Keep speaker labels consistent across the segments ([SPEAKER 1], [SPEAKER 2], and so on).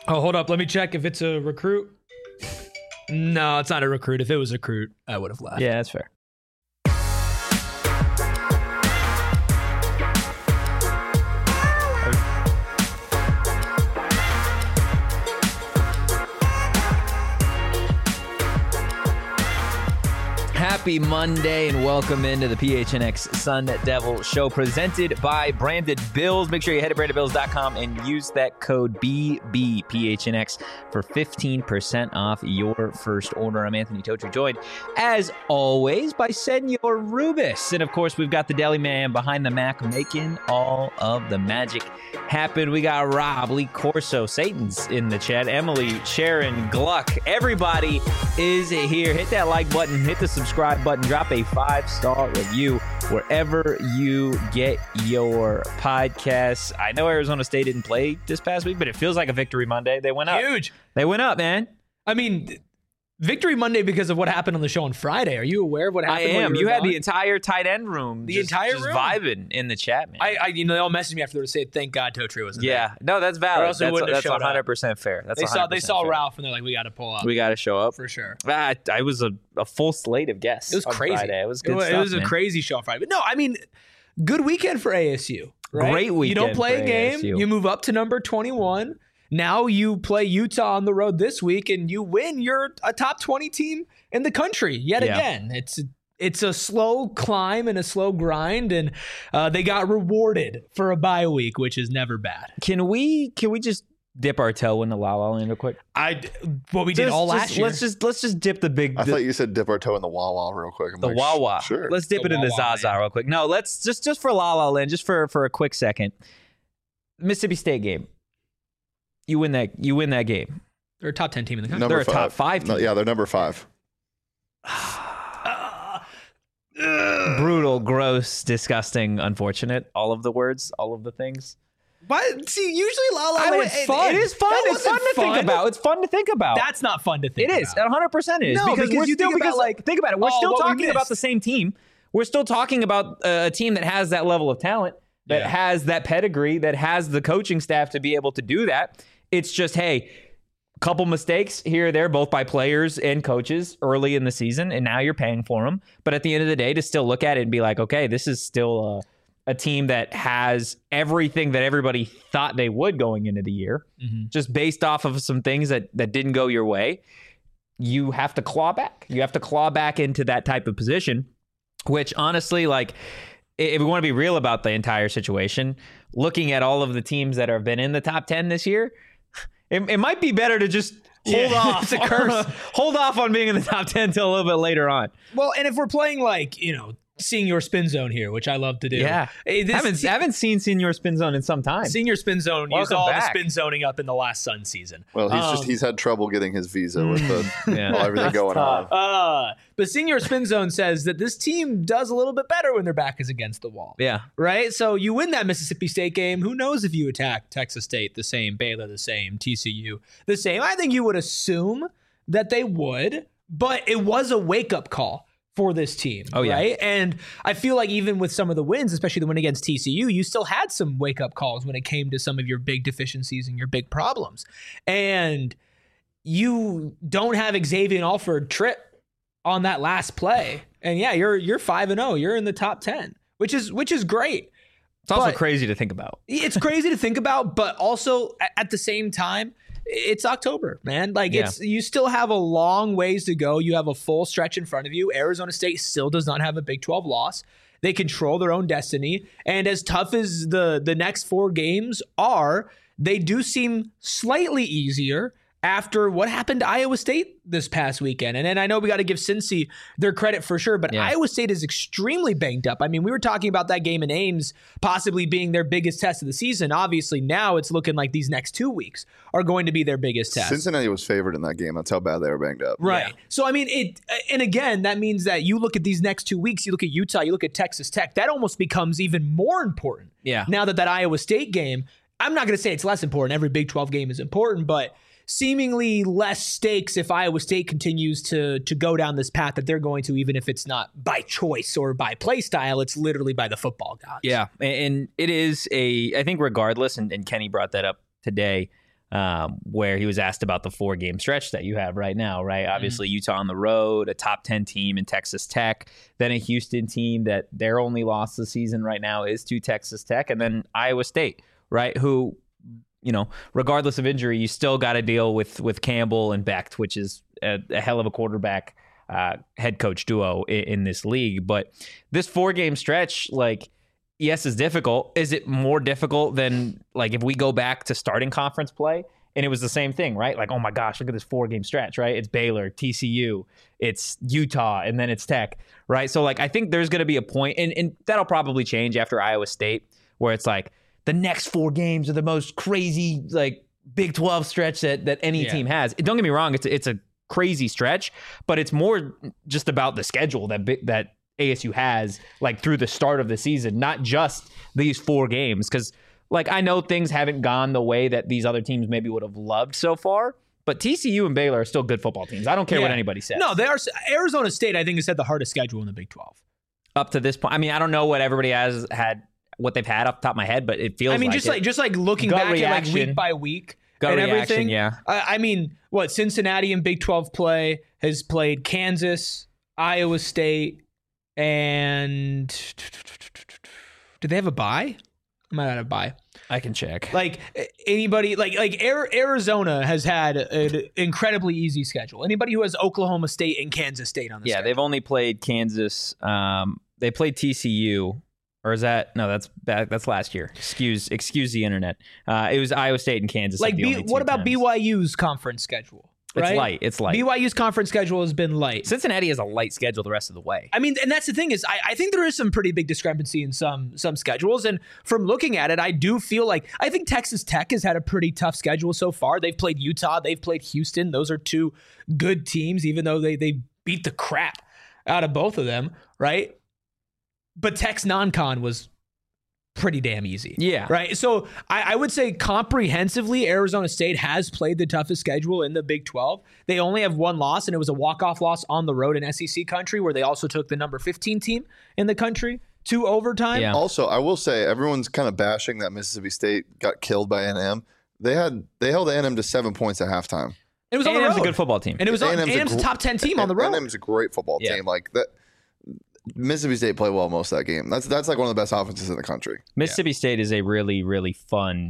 [SPEAKER 1] Oh, hold up. Let me check if it's a recruit. No, it's not a recruit. If it was a recruit, I would have left.
[SPEAKER 2] Yeah, that's fair. Happy Monday and welcome into the PHNX Sun Devil Show presented by Branded Bills. Make sure you head to brandedbills.com and use that code BBPHNX for 15% off your first order. I'm Anthony Totri, joined as always by Senor Rubis. And of course, we've got the Deli Man behind the Mac making all of the magic happen. We got Rob, Lee Corso, Satan's in the chat, Emily, Sharon, Gluck. Everybody is here. Hit that like button, hit the subscribe button, drop a 5-star review wherever you get your podcasts. I know Arizona State didn't play this past week, but it feels like a victory Monday. They went up.
[SPEAKER 1] Huge.
[SPEAKER 2] They went up, man.
[SPEAKER 1] I mean, victory Monday because of what happened on the show on Friday. Are you aware of what happened?
[SPEAKER 2] I am. You had the entire tight end room.
[SPEAKER 1] The entire
[SPEAKER 2] room? Vibing in the chat, man.
[SPEAKER 1] They all messaged me after to say, thank God Totri wasn't there.
[SPEAKER 2] Yeah. No, that's valid.
[SPEAKER 1] Or else they wouldn't have
[SPEAKER 2] That's
[SPEAKER 1] showed up.
[SPEAKER 2] 100% fair. That's
[SPEAKER 1] They saw
[SPEAKER 2] fair.
[SPEAKER 1] Ralph and they're like, we got to pull up.
[SPEAKER 2] We got to show up.
[SPEAKER 1] For sure.
[SPEAKER 2] I was a full slate of guests.
[SPEAKER 1] It was crazy.
[SPEAKER 2] Friday. It was good stuff,
[SPEAKER 1] It was
[SPEAKER 2] man.
[SPEAKER 1] a crazy show on Friday. But no, I mean, good weekend for ASU. Right?
[SPEAKER 2] Great weekend.
[SPEAKER 1] You don't play
[SPEAKER 2] for
[SPEAKER 1] a game.
[SPEAKER 2] ASU.
[SPEAKER 1] You move up to number 21. Now you play Utah on the road this week and you win. You're a top 20 team in the country yet again. It's a slow climb and a slow grind, and they got rewarded for a bye week, which is never bad.
[SPEAKER 2] Can we just dip our toe in the La La Land real quick?
[SPEAKER 1] What we did all last year.
[SPEAKER 2] Let's just dip the big.
[SPEAKER 3] I thought you said dip our toe in the Wawa real quick. I'm
[SPEAKER 2] the
[SPEAKER 3] like,
[SPEAKER 2] Wawa.
[SPEAKER 3] Sure.
[SPEAKER 2] Let's dip
[SPEAKER 1] The
[SPEAKER 2] it in the
[SPEAKER 1] Wawa,
[SPEAKER 2] Zaza
[SPEAKER 1] man.
[SPEAKER 2] real quick. No, let's just for La La Land, just for a quick second. Mississippi State game. You win that game.
[SPEAKER 1] They're a top 10 team in the country.
[SPEAKER 3] Number
[SPEAKER 2] They're a top
[SPEAKER 3] 5.
[SPEAKER 2] 5 team.
[SPEAKER 3] No, yeah, they're number 5.
[SPEAKER 2] Brutal, gross, disgusting, unfortunate. All of the words, all of the things.
[SPEAKER 1] But see, usually La La Land's fun.
[SPEAKER 2] It is fun.
[SPEAKER 1] That
[SPEAKER 2] It's fun
[SPEAKER 1] wasn't
[SPEAKER 2] to think about. It's fun to think about.
[SPEAKER 1] That's not fun to think
[SPEAKER 2] It is.
[SPEAKER 1] about.
[SPEAKER 2] 100% is.
[SPEAKER 1] No,
[SPEAKER 2] because
[SPEAKER 1] because
[SPEAKER 2] we're
[SPEAKER 1] you
[SPEAKER 2] still,
[SPEAKER 1] think about, like,
[SPEAKER 2] think about it. We're
[SPEAKER 1] oh,
[SPEAKER 2] still
[SPEAKER 1] what we
[SPEAKER 2] talking about
[SPEAKER 1] missed.
[SPEAKER 2] the same team. We're still talking about a team that has that level of talent, that has that pedigree, that has the coaching staff to be able to do that. It's just, hey, couple mistakes here or there, both by players and coaches early in the season, and now you're paying for them. But at the end of the day, to still look at it and be like, okay, this is still a team that has everything that everybody thought they would going into the year, just based off of some things that didn't go your way. You have to claw back. You have to claw back into that type of position, which honestly, like, if we want to be real about the entire situation, looking at all of the teams that have been in the top 10 this year, it might be better to just hold off.
[SPEAKER 1] It's a curse.
[SPEAKER 2] Hold off on being in the top 10 until a little bit later on.
[SPEAKER 1] Well, and if we're playing seeing your spin zone here, which I love to do.
[SPEAKER 2] Yeah. Haven't seen Senior Spin Zone in some time.
[SPEAKER 1] Senior spin zone used
[SPEAKER 2] Welcome
[SPEAKER 1] all
[SPEAKER 2] back.
[SPEAKER 1] the spin zoning up in the last Sun season.
[SPEAKER 3] Well, he's had trouble getting his visa with everything going on.
[SPEAKER 1] But senior spin zone says that this team does a little bit better when their back is against the wall.
[SPEAKER 2] Yeah.
[SPEAKER 1] Right? So you win that Mississippi State game. Who knows if you attack Texas State the same, Baylor the same, TCU the same. I think you would assume that they would, but it was a wake-up call for this team, right? And I feel like even with some of the wins, especially the win against TCU, you still had some wake-up calls when it came to some of your big deficiencies and your big problems. And you don't have Xavier Alford trip on that last play. And yeah, you're 5-0. You're in the top 10, which is great.
[SPEAKER 2] It's also
[SPEAKER 1] But-
[SPEAKER 2] crazy to think about.
[SPEAKER 1] It's crazy to think about, but also at the same time, it's October, man. Like you still have a long ways to go. You have a full stretch in front of you. Arizona State still does not have a Big 12 loss. They control their own destiny. And as tough as the next 4 games are, they do seem slightly easier after what happened to Iowa State this past weekend. And then I know we got to give Cincy their credit for sure, but Iowa State is extremely banged up. I mean, we were talking about that game in Ames possibly being their biggest test of the season. Obviously, now it's looking like these next 2 weeks are going to be their biggest test.
[SPEAKER 3] Cincinnati was favored in that game. That's how bad they were banged up.
[SPEAKER 1] Right. Yeah. So, I mean, and again, that means that you look at these next 2 weeks, you look at Utah, you look at Texas Tech, that almost becomes even more important.
[SPEAKER 2] Yeah.
[SPEAKER 1] Now that Iowa State game, I'm not going to say it's less important. Every Big 12 game is important, but seemingly less stakes if Iowa State continues to go down this path that they're going to, even if it's not by choice or by play style, it's literally by the football gods.
[SPEAKER 2] Yeah, and it is I think regardless, and Kenny brought that up today, where he was asked about the 4-game stretch that you have right now, right? Obviously, Utah on the road, a top 10 team in Texas Tech, then a Houston team that their only loss this season right now is to Texas Tech, and then Iowa State, right? Who, regardless of injury, you still got to deal with Campbell and Becht, which is a hell of a quarterback head coach duo in this league. But this 4-game stretch, yes, is difficult. Is it more difficult than if we go back to starting conference play and it was the same thing, right? Oh my gosh, look at this 4-game stretch, right? It's Baylor, TCU, it's Utah, and then it's Tech, right? So I think there's going to be a point, and that'll probably change after Iowa State, where it's the next 4 games are the most crazy Big 12 stretch that any team has. Don't get me wrong, it's a crazy stretch, but it's more just about the schedule that ASU has through the start of the season, not just these 4 games. Because I know things haven't gone the way that these other teams maybe would have loved so far, but TCU and Baylor are still good football teams. I don't care what anybody says.
[SPEAKER 1] No, they are. Arizona State, I think, has had the hardest schedule in the Big 12
[SPEAKER 2] up to this point. I mean, I don't know what everybody has had, what they've had off the top of my head, but it feels. I mean,
[SPEAKER 1] just looking back at week by week.
[SPEAKER 2] Gut
[SPEAKER 1] and
[SPEAKER 2] reaction,
[SPEAKER 1] everything.
[SPEAKER 2] Yeah.
[SPEAKER 1] I mean, Cincinnati in Big 12 play has played Kansas, Iowa State, and do they have a bye? I might not have a bye.
[SPEAKER 2] I can check.
[SPEAKER 1] Anybody Arizona has had an incredibly easy schedule. Anybody who has Oklahoma State and Kansas State on the schedule.
[SPEAKER 2] They've only played Kansas. They played TCU. Or is that no? That's last year. Excuse the internet. It was Iowa State and Kansas.
[SPEAKER 1] What about BYU's conference schedule? Right?
[SPEAKER 2] It's light.
[SPEAKER 1] BYU's conference schedule has been light.
[SPEAKER 2] Cincinnati has a light schedule the rest of the way.
[SPEAKER 1] I mean, and that's the thing is, I think there is some pretty big discrepancy in some schedules. And from looking at it, I do feel I think Texas Tech has had a pretty tough schedule so far. They've played Utah. They've played Houston. Those are 2 good teams, even though they beat the crap out of both of them, right? But Tech's non-con was pretty damn easy.
[SPEAKER 2] Yeah.
[SPEAKER 1] Right? So I would say comprehensively, Arizona State has played the toughest schedule in the Big 12. They only have 1 loss, and it was a walk-off loss on the road in SEC country, where they also took the number 15 team in the country to overtime.
[SPEAKER 2] Yeah.
[SPEAKER 3] Also, I will say, everyone's kind of bashing that Mississippi State got killed by A&M. They held A&M to 7 points at halftime.
[SPEAKER 1] It was on the road.
[SPEAKER 2] A&M's a good football team.
[SPEAKER 1] And it was A&M's a top 10 team on the road.
[SPEAKER 3] A&M's a great football team. That. Mississippi State played well most of that game. That's one of the best offenses in the country.
[SPEAKER 2] Mississippi State is a really, really fun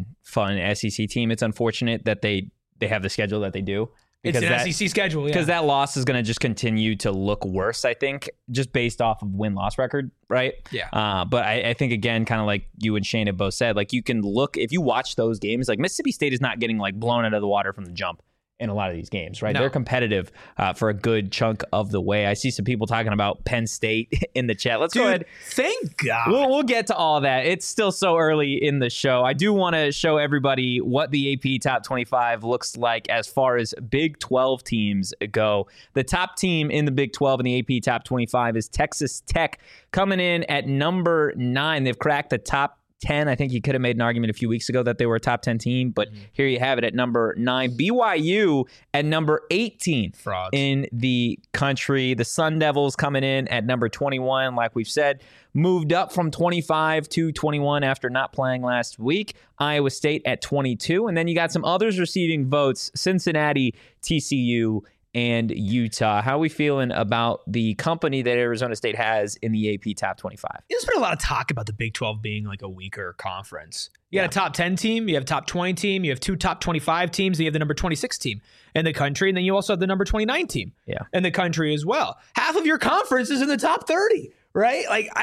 [SPEAKER 2] SEC team. It's unfortunate that they have the schedule that they do.
[SPEAKER 1] It's an SEC schedule,
[SPEAKER 2] because that loss is going to just continue to look worse, I think, just based off of win-loss record, right?
[SPEAKER 1] Yeah.
[SPEAKER 2] But I think, again, kind of like you and Shane have both said, you can look, if you watch those games, Mississippi State is not getting blown out of the water from the jump in a lot of these games, right?
[SPEAKER 1] No.
[SPEAKER 2] They're competitive for a good chunk of the way. I see some people talking about Penn State in the chat. Let's go ahead.
[SPEAKER 1] Thank God.
[SPEAKER 2] We'll get to all that. It's still so early in the show. I do want to show everybody what the AP Top 25 looks like as far as Big 12 teams go. The top team in the Big 12 in the AP Top 25 is Texas Tech, coming in at number 9. They've cracked the top 10. I think you could have made an argument a few weeks ago that they were a top 10 team, but here you have it at number 9. BYU at number 18
[SPEAKER 1] Frauds.
[SPEAKER 2] In the country. The Sun Devils coming in at number 21, like we've said, moved up from 25 to 21 after not playing last week. Iowa State at 22, and then you got some others receiving votes: Cincinnati, TCU, and Utah. How are we feeling about the company that Arizona State has in the AP Top 25?
[SPEAKER 1] There's been a lot of talk about the Big 12 being a weaker conference. You got a top 10 team, you have a top 20 team, you have 2 top 25 teams, and you have the number 26 team in the country, and then you also have the number 29 team in the country as well. Half of your conference is in the top 30, right?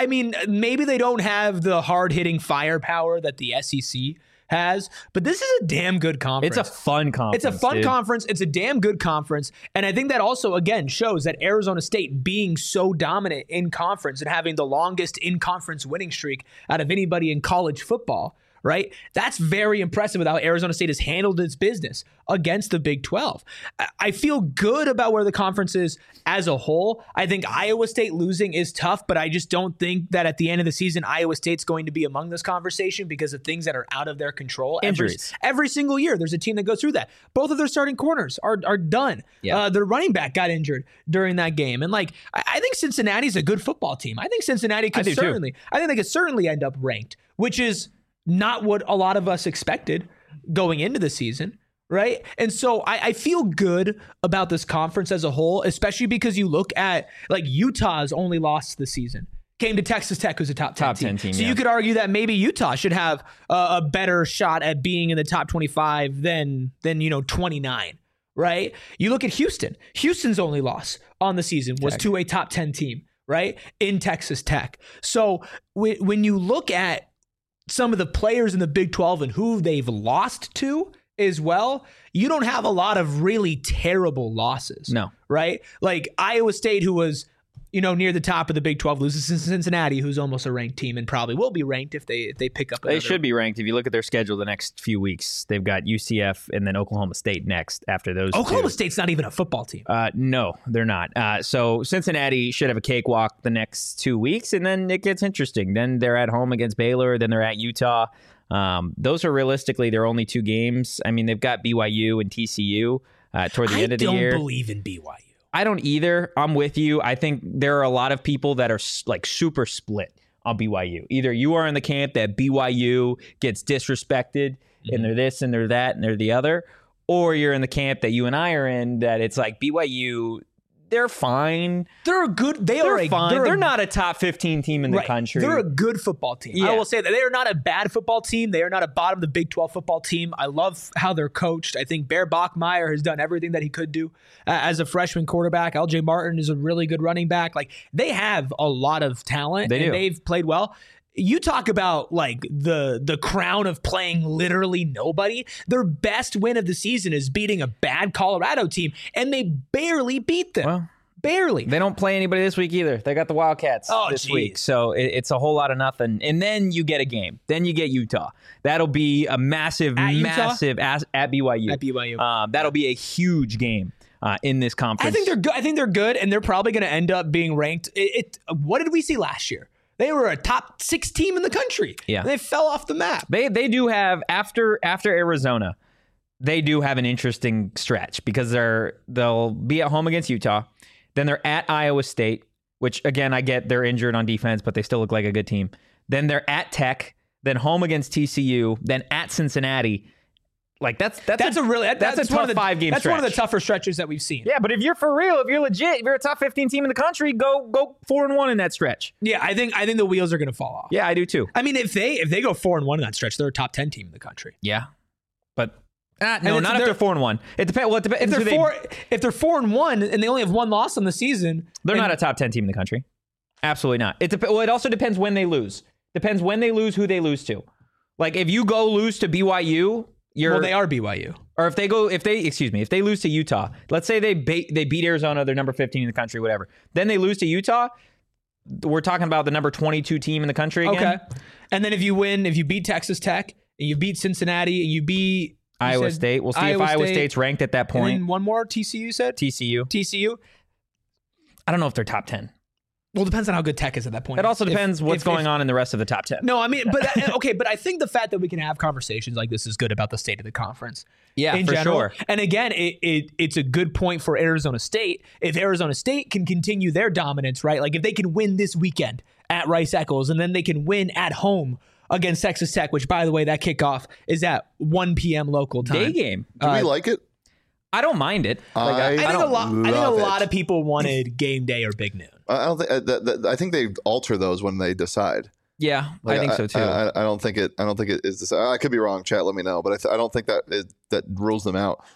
[SPEAKER 1] Maybe they don't have the hard-hitting firepower that the SEC has, but this is a damn good conference.
[SPEAKER 2] It's a fun conference.
[SPEAKER 1] It's a fun conference. It's a damn good conference. And I think that also, again, shows that Arizona State being so dominant in conference and having the longest in-conference winning streak out of anybody in college football, right? That's very impressive with how Arizona State has handled its business against the Big 12. I feel good about where the conference is as a whole. I think Iowa State losing is tough, but I just don't think that at the end of the season, Iowa State's going to be among this conversation because of things that are out of their control.
[SPEAKER 2] Injuries.
[SPEAKER 1] Every single year, there's a team that goes through that. Both of their starting corners are done.
[SPEAKER 2] Yeah.
[SPEAKER 1] Their running back got injured during that game. And I think Cincinnati's a good football team. I think Cincinnati I think they could certainly end up ranked, which is not what a lot of us expected going into the season, right? And so I feel good about this conference as a whole, especially because you look at like Utah's only loss this season. Came to Texas Tech, who's a top 10 team. So you could argue that maybe Utah should have a better shot at being in the top 25 than 29, right? You look at Houston. Houston's only loss on the season was to a top 10 team, right? In Texas Tech. So when you look at some of the players in the Big 12 and who they've lost to as well, you don't have a lot of really terrible losses.
[SPEAKER 2] No.
[SPEAKER 1] Right? Like Iowa State, who was near the top of the Big 12, loses to Cincinnati, who's almost a ranked team and probably will be ranked if they pick up another.
[SPEAKER 2] They should be ranked. If you look at their schedule the next few weeks, they've got UCF and then Oklahoma State next after those
[SPEAKER 1] Oklahoma
[SPEAKER 2] two.
[SPEAKER 1] State's not even a football team.
[SPEAKER 2] No, they're not. So Cincinnati should have a cakewalk the next 2 weeks, and then it gets interesting. Then they're at home against Baylor, then they're at Utah. Those are realistically their only 2 games. I mean, they've got BYU and TCU toward the end of the year.
[SPEAKER 1] I don't believe in BYU.
[SPEAKER 2] I don't either. I'm with you. I think there are a lot of people that are like super split on BYU. Either you are in the camp that BYU gets disrespected and they're this and they're that and they're the other, or you're in the camp that you and I are in that it's like BYU, they're fine.
[SPEAKER 1] They're good.
[SPEAKER 2] They're fine. They're not a top 15 team in the country.
[SPEAKER 1] They're a good football team.
[SPEAKER 2] Yeah.
[SPEAKER 1] I will say that they are not a bad football team. They are not a bottom of the Big 12 football team. I love how they're coached. I think Bear Bachmeier has done everything that he could do as a freshman quarterback. LJ Martin is a really good running back. Like, they have a lot of talent.
[SPEAKER 2] They do.
[SPEAKER 1] They've played well. You talk about like the crown of playing literally nobody. Their best win of the season is beating a bad Colorado team, and they barely beat them.
[SPEAKER 2] Well,
[SPEAKER 1] barely.
[SPEAKER 2] They don't play anybody this week either. They got the Wildcats this week. So it's a whole lot of nothing. And then you get a game. Then you get Utah. That'll be a massive at BYU. At BYU. That'll be a huge game in this conference.
[SPEAKER 1] I think they're good. I think they're good, and they're probably going to end up being ranked. What did we see last year? They were a top 6 team in the country.
[SPEAKER 2] Yeah.
[SPEAKER 1] They fell off the map.
[SPEAKER 2] They do have, after Arizona, they do have an interesting stretch because they'll be at home against Utah. Then they're at Iowa State, which, again, I get they're injured on defense, but they still look like a good team. Then they're at Tech, then home against TCU, then at Cincinnati. Like that's a tough 5-game stretch.
[SPEAKER 1] That's one of the tougher stretches that we've seen.
[SPEAKER 2] Yeah, but if you're for real, if you're legit, if you're a top 15 team in the country, go 4-1 in that stretch.
[SPEAKER 1] Yeah, I think the wheels are going to fall off.
[SPEAKER 2] Yeah, I do too.
[SPEAKER 1] I mean, if they go 4-1 in that stretch, they're a top 10 team in the country.
[SPEAKER 2] Yeah, but no, not if they're 4-1. It depends. Well,
[SPEAKER 1] if they're 4-1 and they only have 1 loss on the season,
[SPEAKER 2] they're not a top 10 team in the country. Absolutely not. It also depends when they lose. Depends when they lose, who they lose to. Like if you go lose to BYU.
[SPEAKER 1] They are BYU.
[SPEAKER 2] Or if they lose to Utah, let's say they beat Arizona, they're number 15 in the country, whatever. Then they lose to Utah. We're talking about the number 22 team in the country again.
[SPEAKER 1] Okay. And then if you beat Texas Tech, and you beat Cincinnati, and you beat
[SPEAKER 2] Iowa State. We'll see if Iowa State's ranked at that point.
[SPEAKER 1] And then one more, TCU, you said?
[SPEAKER 2] TCU. I don't know if they're top 10.
[SPEAKER 1] Well, it depends on how good Tech is at that point.
[SPEAKER 2] It also depends what's going on in the rest of the top 10.
[SPEAKER 1] No, I mean, but but I think the fact that we can have conversations like this is good about the state of the conference.
[SPEAKER 2] Yeah,
[SPEAKER 1] in
[SPEAKER 2] for
[SPEAKER 1] general.
[SPEAKER 2] sure.
[SPEAKER 1] And again, it's a good point for Arizona State. If Arizona State can continue their dominance, right? Like if they can win this weekend at Rice-Eccles and then they can win at home against Texas Tech, which, by the way, that kickoff is at 1 p.m. local time.
[SPEAKER 2] Day game.
[SPEAKER 3] Do we like it?
[SPEAKER 2] I don't mind it.
[SPEAKER 1] I think a lot of people wanted game day or big noon.
[SPEAKER 3] I don't think. I think they alter those when they decide.
[SPEAKER 2] Yeah, I think so too.
[SPEAKER 3] I don't think it is. Decided. I could be wrong. Chat, let me know. But I don't think that rules them out.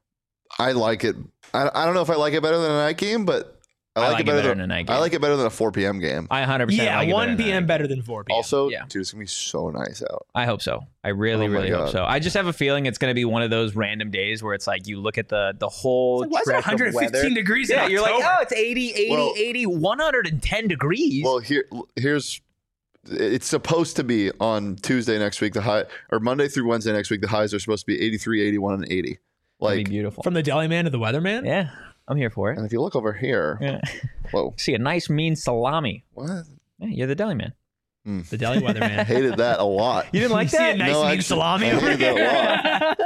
[SPEAKER 3] I like it. I don't know if I like it better than a night game, but I like it better than a night game. I like it better than a 4 p.m. game.
[SPEAKER 2] I 100%.
[SPEAKER 1] Yeah,
[SPEAKER 2] like
[SPEAKER 1] 1 p.m. better than 4 p.m.
[SPEAKER 3] Also, dude, it's gonna be so nice out.
[SPEAKER 2] I hope so. I really hope so. I just have a feeling it's going to be one of those random days where it's like you look at the whole
[SPEAKER 1] why is it 115 degrees in October?
[SPEAKER 2] You're like, oh, it's 80, 110 degrees.
[SPEAKER 3] Well, here's it's supposed to be on Tuesday next week, the high, or Monday through Wednesday next week, the highs are supposed to be 83, 81, and 80.
[SPEAKER 2] That'd be beautiful.
[SPEAKER 1] From the deli man to the weatherman?
[SPEAKER 2] Yeah, I'm here for it.
[SPEAKER 3] And if you look over here, whoa.
[SPEAKER 2] See a nice mean salami.
[SPEAKER 3] What?
[SPEAKER 2] Yeah, you're the deli man.
[SPEAKER 1] The deli weatherman.
[SPEAKER 3] I hated that a lot.
[SPEAKER 2] You didn't like that?
[SPEAKER 1] See a nice mean salami over
[SPEAKER 3] here?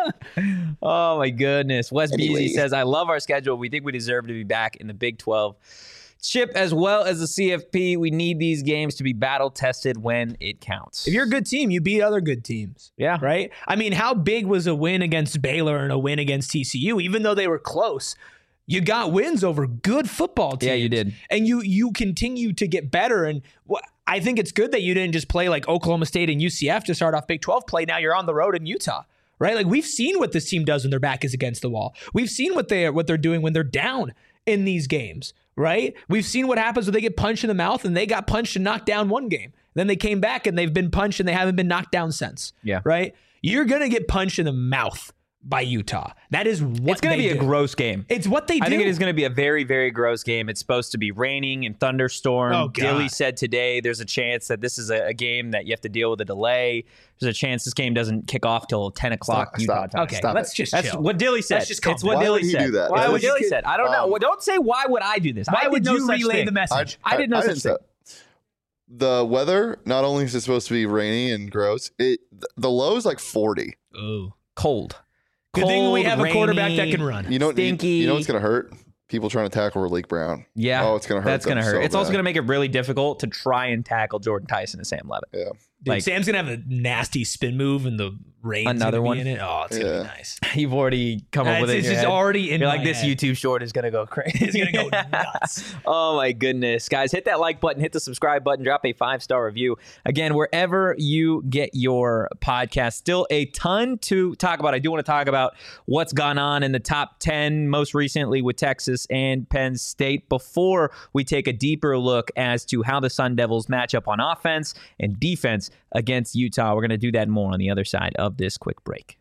[SPEAKER 2] Oh my goodness. Wes Beasy says, I love our schedule. We think we deserve to be back in the Big 12 Chip, as well as the CFP, we need these games to be battle-tested when it counts.
[SPEAKER 1] If you're a good team, you beat other good teams.
[SPEAKER 2] Yeah.
[SPEAKER 1] Right? I mean, how big was a win against Baylor and a win against TCU? Even though they were close, you got wins over good football teams.
[SPEAKER 2] Yeah, you did.
[SPEAKER 1] And you continue to get better. And I think it's good that you didn't just play like Oklahoma State and UCF to start off Big 12 play. Now you're on the road in Utah. Right? Like, we've seen what this team does when their back is against the wall. We've seen what they're doing when they're down in these games, right? We've seen what happens when they get punched in the mouth, and they got punched and knocked down one game. Then they came back and they've been punched and they haven't been knocked down since.
[SPEAKER 2] Yeah.
[SPEAKER 1] Right? You're going to get punched in the mouth by Utah. That is what
[SPEAKER 2] it's going to be a gross game.
[SPEAKER 1] It's what they do.
[SPEAKER 2] I think it is going to be a very, very gross game. It's supposed to be raining and thunderstorm.
[SPEAKER 1] Oh, God.
[SPEAKER 2] Dilly said today there's a chance that this is a game that you have to deal with a delay. There's a chance this game doesn't kick off till 10 o'clock Utah time.
[SPEAKER 1] Okay, let's just chill.
[SPEAKER 2] That's what Dilly said.
[SPEAKER 1] It's
[SPEAKER 3] what
[SPEAKER 2] Dilly
[SPEAKER 3] said. Do that?
[SPEAKER 2] Why would Dilly said? I don't know. Well, don't say why would I do this.
[SPEAKER 1] Why would you relay the message?
[SPEAKER 2] I didn't know such thing.
[SPEAKER 3] The weather, not only is it supposed to be rainy and gross, the low is like 40.
[SPEAKER 1] Ooh.
[SPEAKER 2] Cold.
[SPEAKER 1] Good thing we
[SPEAKER 2] Cold,
[SPEAKER 1] have a quarterback
[SPEAKER 2] rainy,
[SPEAKER 1] that can run.
[SPEAKER 3] You know,
[SPEAKER 2] stinky.
[SPEAKER 3] You know what's going to hurt? People trying to tackle Malik Brown.
[SPEAKER 2] Yeah.
[SPEAKER 3] Oh, it's going to hurt.
[SPEAKER 2] That's going to hurt.
[SPEAKER 3] So
[SPEAKER 2] it's also
[SPEAKER 3] bad.
[SPEAKER 2] going to make it really difficult to try and tackle Jordan Tyson and Sam Levitt.
[SPEAKER 3] Yeah.
[SPEAKER 1] Dude, Sam's going to have a nasty spin move and the rain's
[SPEAKER 2] Another one
[SPEAKER 1] in it. Oh, it's going to be nice.
[SPEAKER 2] You've already come up with it.
[SPEAKER 1] It's just already in
[SPEAKER 2] You're
[SPEAKER 1] my
[SPEAKER 2] like, this
[SPEAKER 1] head.
[SPEAKER 2] YouTube short is going to go crazy.
[SPEAKER 1] It's going to go nuts.
[SPEAKER 2] Oh, my goodness. Guys, hit that like button, hit the subscribe button, drop a 5-star review. Again, wherever you get your podcast, still a ton to talk about. I do want to talk about what's gone on in the top 10, most recently with Texas and Penn State, before we take a deeper look as to how the Sun Devils match up on offense and defense against Utah. We're going to do that more on the other side of this quick break.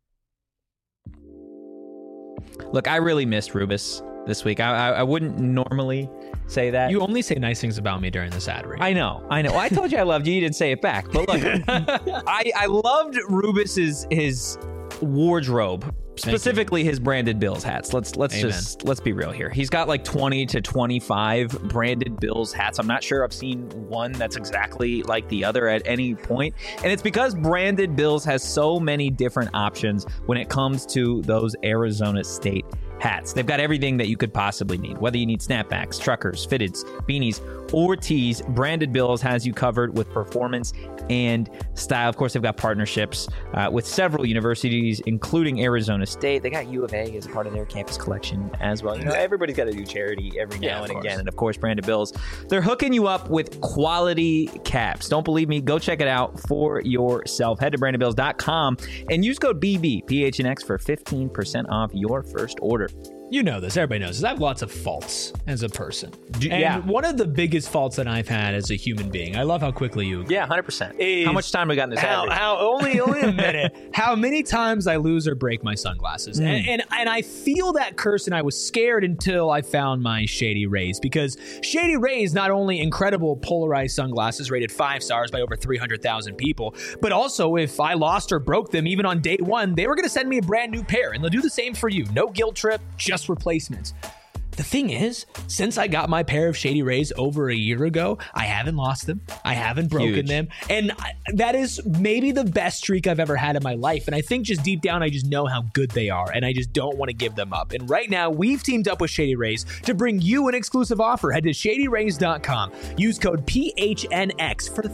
[SPEAKER 2] Look, I really missed Rubis this week. I wouldn't normally say that.
[SPEAKER 1] You only say nice things about me during this ad read.
[SPEAKER 2] I know. Well, I told you I loved you. You didn't say it back. But look, I loved Rubis's his wardrobe, specifically his branded Bills hats. Let's be real here. He's got like 20 to 25 branded Bills hats. I'm not sure I've seen one that's exactly like the other at any point. And it's because branded Bills has so many different options when it comes to those Arizona State hats. They've got everything that you could possibly need. Whether you need snapbacks, truckers, fitteds, beanies, or tees, Branded Bills has you covered with performance and style. Of course, they've got partnerships with several universities, including Arizona State. They got U of A as a part of their campus collection as well. You know, everybody's got to do charity every now and again. And of course, Branded Bills, they're hooking you up with quality caps. Don't believe me? Go check it out for yourself. Head to brandedbills.com and use code BB, PHNX, for 15% off your first order.
[SPEAKER 1] You know this. Everybody knows this. I have lots of faults as a person.
[SPEAKER 2] Yeah.
[SPEAKER 1] One of the biggest faults that I've had as a human being, I love how quickly you...
[SPEAKER 2] Yeah, 100%. How much time we got in this?
[SPEAKER 1] Only a minute. How many times I lose or break my sunglasses. And I feel that curse, and I was scared until I found my Shady Rays, because Shady Rays, not only incredible polarized sunglasses rated 5 stars by over 300,000 people, but also if I lost or broke them even on day one, they were going to send me a brand new pair, and they'll do the same for you. No guilt trip, just replacements. The thing is, since I got my pair of Shady Rays over a year ago, I haven't lost them. I haven't broken them. And that is maybe the best streak I've ever had in my life. And I think just deep down, I just know how good they are. And I just don't want to give them up. And right now, we've teamed up with Shady Rays to bring you an exclusive offer. Head to shadyrays.com. Use code PHNX for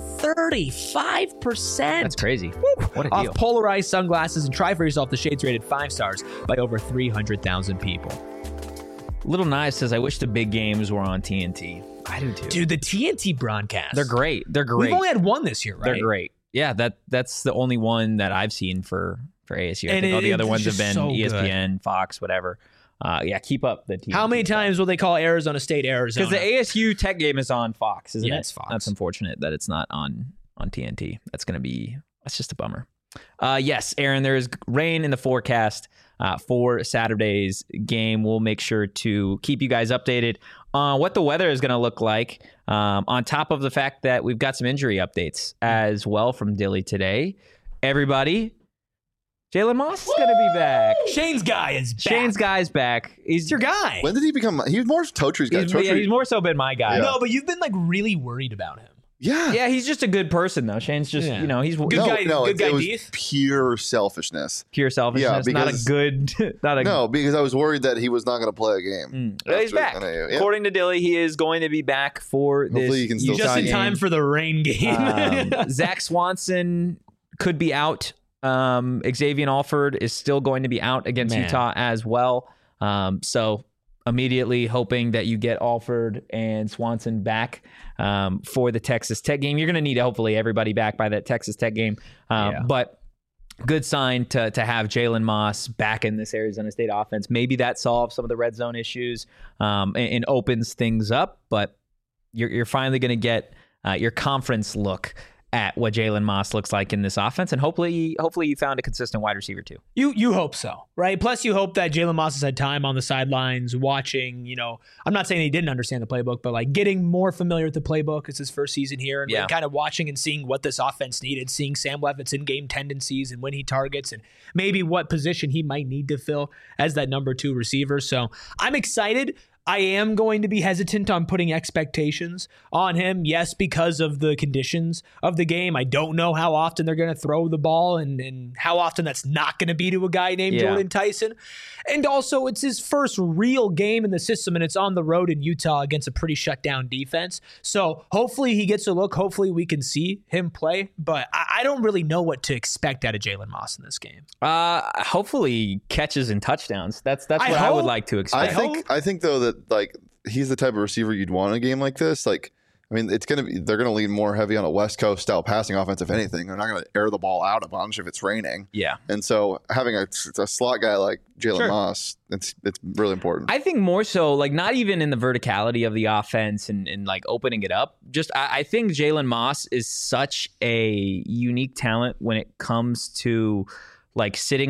[SPEAKER 1] 35%.
[SPEAKER 2] That's crazy. What a deal.
[SPEAKER 1] Off polarized sunglasses, and try for yourself the shades rated 5 stars by over 300,000 people.
[SPEAKER 2] Little Nice says, I wish the big games were on TNT. I do too.
[SPEAKER 1] Dude, the TNT broadcasts.
[SPEAKER 2] They're great.
[SPEAKER 1] We've only had one this year, right?
[SPEAKER 2] They're great. Yeah, that's the only one that I've seen for ASU. I think all the other ones have been so ESPN, good. Fox, whatever. Yeah, keep up the TNT.
[SPEAKER 1] How many times will they call Arizona State Arizona?
[SPEAKER 2] Because the ASU Tech game is on Fox, isn't it?
[SPEAKER 1] It's Fox.
[SPEAKER 2] That's unfortunate that it's not on TNT. That's just a bummer. Yes, Aaron, there is rain in the forecast for Saturday's game. We'll make sure to keep you guys updated on what the weather is going to look like, on top of the fact that we've got some injury updates as well from Dilly today. Everybody, Jalen Moss is going to be back.
[SPEAKER 1] Shane's guy is back.
[SPEAKER 2] Shane's guy's back. He's
[SPEAKER 1] your guy.
[SPEAKER 3] When did he become? He was more Totry's guy.
[SPEAKER 2] He's more so been my guy.
[SPEAKER 1] Yeah. No, but you've been like really worried about him.
[SPEAKER 2] Yeah, he's just a good person, though. Shane's just, he's
[SPEAKER 1] good guy. Good guy.
[SPEAKER 3] It was pure selfishness.
[SPEAKER 2] Pure selfishness. Not a good.
[SPEAKER 3] No, because I was worried that he was not going to play a game.
[SPEAKER 2] He's back. According to Dilly, he is going to be back for
[SPEAKER 3] Hopefully
[SPEAKER 2] this.
[SPEAKER 3] He can
[SPEAKER 1] just in time for the rain game.
[SPEAKER 2] Zach Swanson could be out. Xavier Alford is still going to be out against Utah as well. So immediately hoping that you get Alford and Swanson back for the Texas Tech game. You're going to need hopefully everybody back by that Texas Tech game. But good sign to have Jalen Moss back in this Arizona State offense. Maybe that solves some of the red zone issues and opens things up. But you're finally going to get your conference look at what Jalen Moss looks like in this offense, and hopefully you found a consistent wide receiver too.
[SPEAKER 1] You hope so, right? Plus, you hope that Jalen Moss has had time on the sidelines watching. I'm not saying he didn't understand the playbook, but like getting more familiar with the playbook. It's his first season here, and kind of watching and seeing what this offense needed, seeing Sam Leavitt's in-game tendencies and when he targets, and maybe what position he might need to fill as that number 2 receiver. So I'm excited. I am going to be hesitant on putting expectations on him. Yes, because of the conditions of the game. I don't know how often they're going to throw the ball and how often that's not going to be to a guy named Jordan Tyson. And also, it's his first real game in the system, and it's on the road in Utah against a pretty shut down defense. So hopefully he gets a look. Hopefully we can see him play. But I don't really know what to expect out of Jalen Moss in this game.
[SPEAKER 2] Hopefully catches and touchdowns. That's what I would like to expect.
[SPEAKER 3] I think though that like he's the type of receiver you'd want in a game like this. Like, I mean, they're gonna lean more heavy on a West Coast style passing offense. If anything, they're not gonna air the ball out a bunch if it's raining.
[SPEAKER 2] Yeah,
[SPEAKER 3] and so having a slot guy like Jalen Moss, it's really important.
[SPEAKER 2] I think more so, like not even in the verticality of the offense and like opening it up. Just I think Jalen Moss is such a unique talent when it comes to like sitting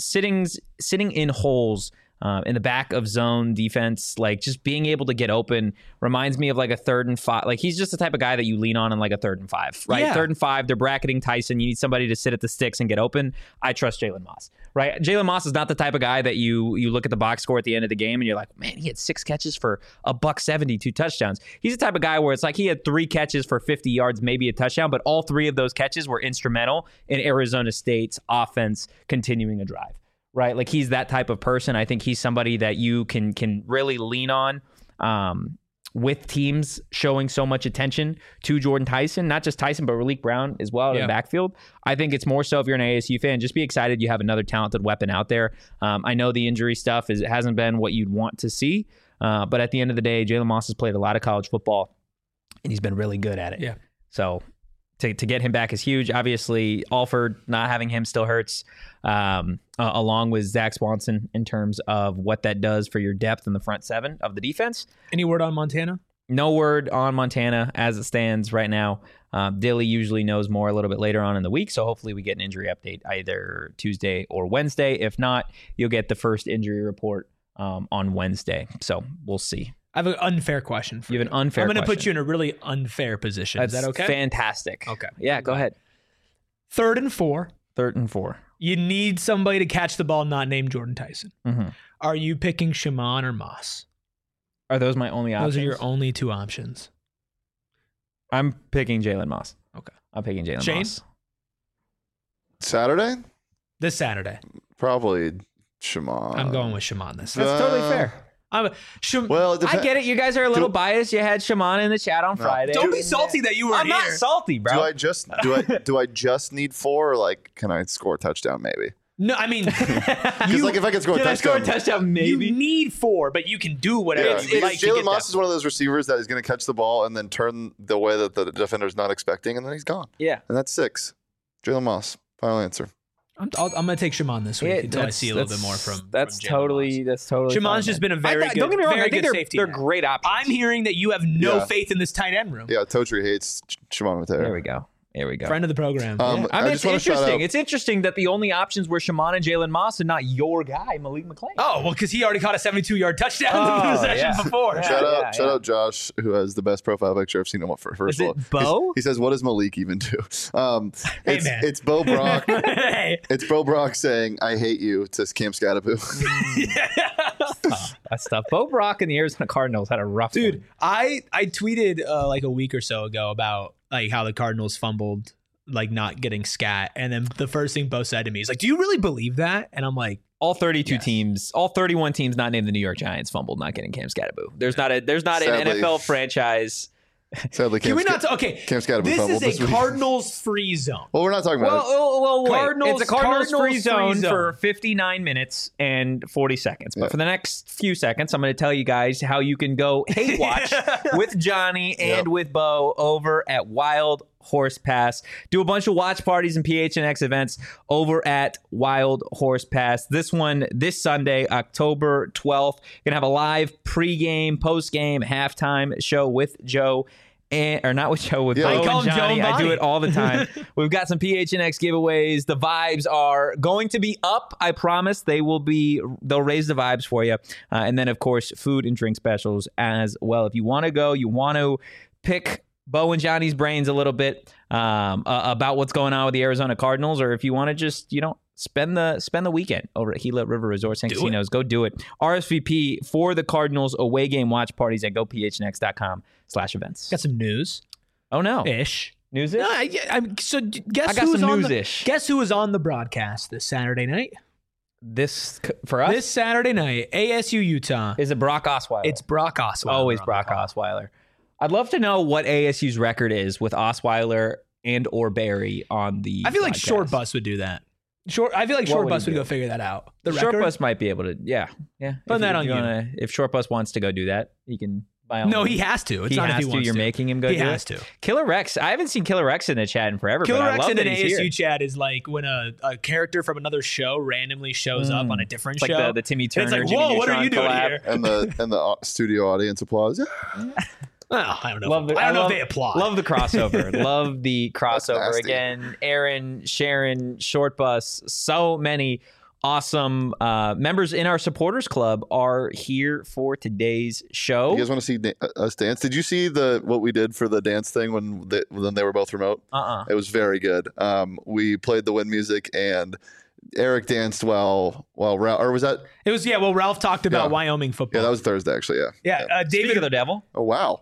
[SPEAKER 2] in holes. In the back of zone defense, like just being able to get open reminds me of like a 3rd and 5. Like he's just the type of guy that you lean on in like a 3rd and 5, right? 3rd and 5, they're bracketing Tyson. You need somebody to sit at the sticks and get open. I trust Jalen Moss, right? Jalen Moss is not the type of guy that you look at the box score at the end of the game and you're like, man, he had 6 catches for $170, 2 touchdowns. He's the type of guy where it's like he had 3 catches for 50 yards, maybe a touchdown, but all 3 of those catches were instrumental in Arizona State's offense continuing a drive. Right, like he's that type of person. I think he's somebody that you can really lean on with teams showing so much attention to Jordan Tyson, not just Tyson, but Raleek Brown as well in the backfield. I think it's more so if you're an ASU fan, just be excited you have another talented weapon out there. I know the injury stuff hasn't been what you'd want to see, but at the end of the day, Jalen Moss has played a lot of college football, and he's been really good at it.
[SPEAKER 1] Yeah.
[SPEAKER 2] So to get him back is huge. Obviously, Alford, not having him still hurts, along with Zach Swanson in terms of what that does for your depth in the front 7 of the defense.
[SPEAKER 1] Any word on Montana?
[SPEAKER 2] No word on Montana as it stands right now. Dilly usually knows more a little bit later on in the week, so hopefully we get an injury update either Tuesday or Wednesday. If not, you'll get the first injury report on Wednesday. So we'll see.
[SPEAKER 1] I have an unfair question for you.
[SPEAKER 2] You have an unfair question.
[SPEAKER 1] I'm going to put you in a really unfair position.
[SPEAKER 2] That's
[SPEAKER 1] Is that okay?
[SPEAKER 2] Fantastic.
[SPEAKER 1] Okay.
[SPEAKER 2] Yeah, go ahead.
[SPEAKER 1] 3rd and 4.
[SPEAKER 2] 3rd and 4.
[SPEAKER 1] You need somebody to catch the ball not named Jordan Tyson.
[SPEAKER 2] Mm-hmm.
[SPEAKER 1] Are you picking Shaman or Moss?
[SPEAKER 2] Are those my only options?
[SPEAKER 1] Those are your only 2 options.
[SPEAKER 2] I'm picking Jalen Moss.
[SPEAKER 1] Okay.
[SPEAKER 2] I'm picking Jalen
[SPEAKER 1] Shane?
[SPEAKER 2] Moss.
[SPEAKER 3] Saturday?
[SPEAKER 1] This Saturday.
[SPEAKER 3] Probably Shaman.
[SPEAKER 1] I'm going with Shaman this
[SPEAKER 2] That's
[SPEAKER 1] Saturday.
[SPEAKER 2] totally fair.
[SPEAKER 3] Well,
[SPEAKER 2] I get it. You guys are a little biased. You had Shaman in the chat on Friday.
[SPEAKER 1] Don't be salty that you were
[SPEAKER 2] I'm
[SPEAKER 1] here.
[SPEAKER 2] not salty, bro.
[SPEAKER 3] Do I just need 4, or like can I score a touchdown maybe?
[SPEAKER 1] No, I mean,
[SPEAKER 3] because like if I can score a touchdown,
[SPEAKER 2] maybe.
[SPEAKER 1] You need 4, but you can do whatever.
[SPEAKER 3] Yeah. Jalen Moss is one of those receivers that is going to catch the ball and then turn the way that the defender's not expecting, and then he's gone.
[SPEAKER 2] Yeah,
[SPEAKER 3] and that's 6. Jalen Moss. Final answer.
[SPEAKER 1] I'm going to take Shaman this week until I see a little bit more from.
[SPEAKER 2] That's totally.
[SPEAKER 1] Shaman's just been a very good.
[SPEAKER 2] Don't get me wrong. I think
[SPEAKER 1] safety.
[SPEAKER 2] They're great options.
[SPEAKER 1] I'm hearing that you have no faith in this tight end room.
[SPEAKER 3] Yeah, Totri hates Shaman Mateo.
[SPEAKER 2] There we go. Here we go.
[SPEAKER 1] Friend of the program.
[SPEAKER 2] I mean, it's interesting. It's interesting that the only options were Shaman and Jalen Moss and not your guy, Malik McClain.
[SPEAKER 1] Oh, well, because he already caught a 72-yard touchdown in the possession before.
[SPEAKER 3] Shout out Josh, who has the best profile picture I've seen him for first of all.
[SPEAKER 2] Is it Bo?
[SPEAKER 3] He says, what does Malik even do? It's Bo Brock.
[SPEAKER 1] Hey.
[SPEAKER 3] It's Bo Brock saying, I hate you to Cam Scattaboo.
[SPEAKER 2] That's tough. Bo Brock and the Arizona Cardinals had a rough
[SPEAKER 1] Dude,
[SPEAKER 2] one.
[SPEAKER 1] I tweeted like a week or so ago about like how the Cardinals fumbled, like not getting scat. And then the first thing Bo said to me is like, "Do you really believe that?" And I'm like,
[SPEAKER 2] all 32 teams, all 31 teams not named the New York Giants fumbled not getting Cam Skattebo. There's not an NFL franchise.
[SPEAKER 3] Sadly,
[SPEAKER 1] Cam Skattebo this is a Cardinals free zone.
[SPEAKER 3] Well, we're not talking about
[SPEAKER 2] it's a Cardinals free zone for 59 minutes and 40 seconds. But for the next few seconds, I'm going to tell you guys how you can go hate watch with Johnny and with Bo over at Wild Horse Pass. Do a bunch of watch parties and PHNX events over at Wild Horse Pass. This one, this Sunday, October 12th. Gonna have a live pregame, postgame, halftime show with Joe. Or not with Joe, with Bo and Johnny. I do it all the time. We've got some PHNX giveaways. The vibes are going to be up. I promise they'll raise the vibes for you. And then, of course, food and drink specials as well. If you want to go, you want to pick Bo and Johnny's brains a little bit about what's going on with the Arizona Cardinals, or if you want to just, spend the weekend over at Gila River Resorts and Casinos, go do it. RSVP for the Cardinals away game watch parties at gophnx.com/events.
[SPEAKER 1] Got some news.
[SPEAKER 2] Oh no,
[SPEAKER 1] ish
[SPEAKER 2] news.
[SPEAKER 1] No, so guess who was on the broadcast this Saturday night?
[SPEAKER 2] This for us
[SPEAKER 1] this Saturday night, ASU Utah.
[SPEAKER 2] Is it Brock Osweiler?
[SPEAKER 1] It's Brock Osweiler.
[SPEAKER 2] Always Brock Osweiler. I'd love to know what ASU's record is with Osweiler and or Barry on the.
[SPEAKER 1] I feel like Short Bus would do that. I feel like Short Bus would go figure that out. The
[SPEAKER 2] Short Bus might be able to. Yeah.
[SPEAKER 1] Put that on you.
[SPEAKER 2] If Short Bus wants to go do that, he can.
[SPEAKER 1] No, he has to. It's not if he wants to.
[SPEAKER 2] You're making him go do it? He
[SPEAKER 1] has to.
[SPEAKER 2] Killer Rex. I haven't seen Killer Rex in the chat in forever.
[SPEAKER 1] Killer Rex in an
[SPEAKER 2] ASU
[SPEAKER 1] here. Chat is like when a character from another show randomly shows up on a different show.
[SPEAKER 2] Like the Timmy Turner.
[SPEAKER 1] And it's like, whoa, what are you doing here?
[SPEAKER 3] And the studio audience applause.
[SPEAKER 1] Well, I don't know. I don't know if they applaud.
[SPEAKER 2] Love the crossover. Love the crossover. Again, Aaron, Sharon, Short Bus, so many awesome members in our supporters club are here for today's show.
[SPEAKER 3] You guys want to see us dance? Did you see what we did for the dance thing when they were both remote? It was very good. We played the wind music and Eric danced while Ralph, or was that?
[SPEAKER 1] It was, well, Ralph talked about Wyoming football.
[SPEAKER 3] Yeah, that was Thursday, actually,
[SPEAKER 1] Yeah,
[SPEAKER 2] David of the Devil.
[SPEAKER 3] Oh, wow.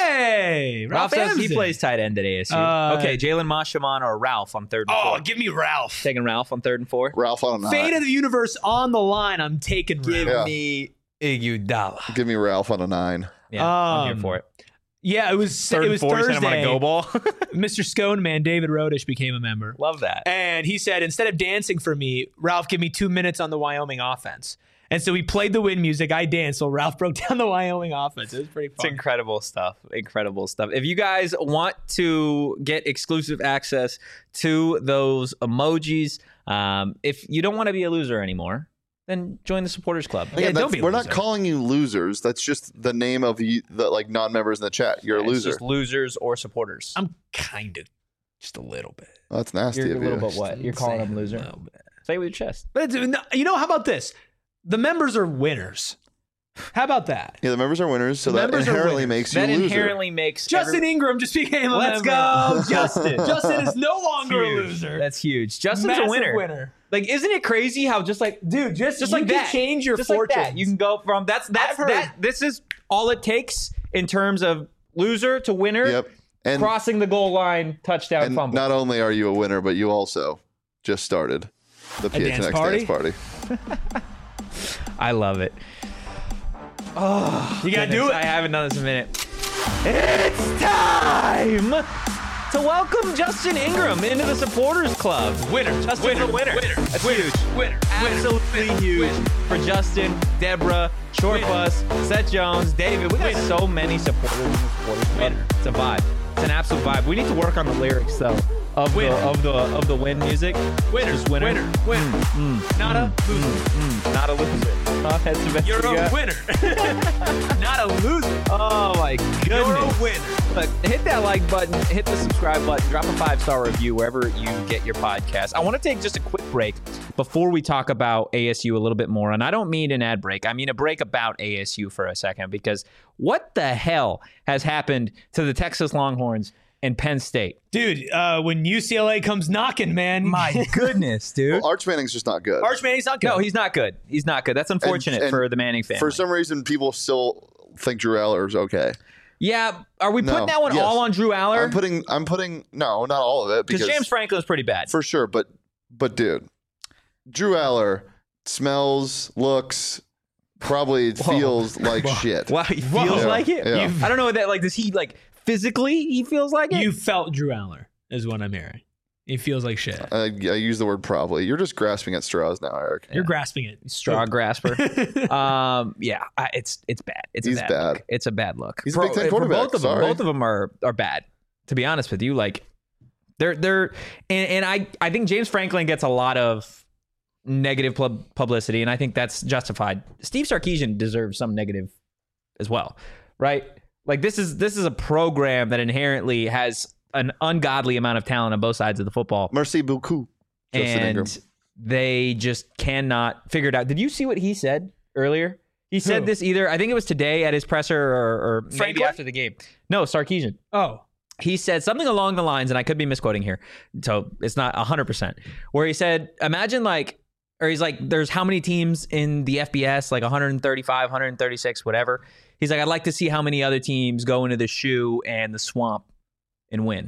[SPEAKER 1] Hey,
[SPEAKER 2] Ralph says he plays tight end at ASU. Okay, Jalen Moshaman or Ralph on 3rd and 4.
[SPEAKER 1] Oh, give me Ralph.
[SPEAKER 2] Taking Ralph on 3rd and 4.
[SPEAKER 3] Ralph on a 9.
[SPEAKER 1] Fate of the universe on the line. I'm taking Ralph.
[SPEAKER 2] Give me Iguodala.
[SPEAKER 3] Give me Ralph on a 9.
[SPEAKER 2] Yeah, I'm here for it.
[SPEAKER 1] Yeah, it was Thursday.
[SPEAKER 2] I'm on a go ball.
[SPEAKER 1] Mr. Scone Man, David Rodish, became a member.
[SPEAKER 2] Love that.
[SPEAKER 1] And he said, instead of dancing for me, Ralph, give me 2 minutes on the Wyoming offense. And so we played the wind music. I danced, so Ralph broke down the Wyoming offense. It was pretty fun.
[SPEAKER 2] It's incredible stuff. Incredible stuff. If you guys want to get exclusive access to those emojis, if you don't want to be a loser anymore, then join the supporters club.
[SPEAKER 3] Again, we're not calling you losers. That's just the name of the non-members in the chat. You're a loser.
[SPEAKER 2] It's just losers or supporters.
[SPEAKER 1] I'm kind of just a little bit.
[SPEAKER 3] Oh, that's nasty.
[SPEAKER 2] You're
[SPEAKER 3] of
[SPEAKER 2] a
[SPEAKER 3] you.
[SPEAKER 2] little bit what? You're calling them loser. Say it with your chest.
[SPEAKER 1] But how about this? The members are winners. How about that?
[SPEAKER 3] Yeah, the members are winners, so that inherently makes you a loser.
[SPEAKER 2] That inherently makes
[SPEAKER 1] Justin Ingram just became a member.
[SPEAKER 2] Let's go,
[SPEAKER 1] Justin. Justin is no longer a loser.
[SPEAKER 2] That's huge. Justin's a winner. Like, isn't it crazy how just like
[SPEAKER 1] like
[SPEAKER 2] that,
[SPEAKER 1] can change your fortune.
[SPEAKER 2] Like you can go from that. This is all it takes in terms of loser to winner.
[SPEAKER 3] Yep. And
[SPEAKER 2] crossing the goal line, touchdown,
[SPEAKER 3] and
[SPEAKER 2] fumble.
[SPEAKER 3] Not only are you a winner, but you also just started the PHNX dance party.
[SPEAKER 2] I love it. Oh,
[SPEAKER 1] you gotta do it.
[SPEAKER 2] I haven't done this in a minute. It's time to welcome Justin Ingram into the supporters club. Justin's a winner. That's huge. Absolutely huge for Justin, Deborah, Short Bus, Seth Jones, David. We got so many supporters in the supporters club. It's a vibe. It's an absolute vibe. We need to work on the lyrics though of the wind music. Winner.
[SPEAKER 1] Not a loser.
[SPEAKER 2] Not a loser. That's the best.
[SPEAKER 1] You're a winner. Not a loser.
[SPEAKER 2] Oh my goodness.
[SPEAKER 1] You're a winner.
[SPEAKER 2] Look, hit that like button, hit the subscribe button, drop a 5-star review wherever you get your podcast. I want to take just a quick break before we talk about ASU a little bit more. And I don't mean an ad break. I mean a break about ASU for a second, because what the hell has happened to the Texas Longhorns and Penn State?
[SPEAKER 1] Dude, when UCLA comes knocking, man.
[SPEAKER 2] My goodness, dude.
[SPEAKER 3] Well, Arch Manning's just not good.
[SPEAKER 1] Arch Manning's not good.
[SPEAKER 2] No, he's not good. He's not good. That's unfortunate for the Manning family.
[SPEAKER 3] For some reason, people still think Drew Aller is okay.
[SPEAKER 2] Yeah, are we putting that one all on Drew Aller?
[SPEAKER 3] I'm putting no, not all of it,
[SPEAKER 2] because James Franklin is pretty bad
[SPEAKER 3] for sure. But dude, Drew Aller smells, looks, probably feels like shit.
[SPEAKER 2] Wow, he feels like it.
[SPEAKER 3] Yeah.
[SPEAKER 2] I don't know what that like. Does he like physically? He feels like it.
[SPEAKER 1] You felt Drew Aller is what I'm hearing. He feels like shit.
[SPEAKER 3] I use the word probably. You're just grasping at straws now, Eric.
[SPEAKER 1] You're grasping it.
[SPEAKER 2] Straw grasper. It's bad.
[SPEAKER 3] He's bad.
[SPEAKER 2] Look. It's a bad look.
[SPEAKER 3] He's a Big Ten quarterback.
[SPEAKER 2] Both of them are bad. To be honest with you, like they're and I think James Franklin gets a lot of negative publicity, and I think that's justified. Steve Sarkisian deserves some negative as well, right? Like this is a program that inherently has an ungodly amount of talent on both sides of the football.
[SPEAKER 3] Merci beaucoup, Justin Ingram.
[SPEAKER 2] They just cannot figure it out. Did you see what he said earlier? He said this either, I think it was today at his presser or maybe after the game. No, Sarkisian.
[SPEAKER 1] Oh.
[SPEAKER 2] He said something along the lines, and I could be misquoting here, so it's not 100%, where he said, imagine he's like, there's how many teams in the FBS, like 135, 136, whatever. He's like, I'd like to see how many other teams go into the shoe and the swamp and win.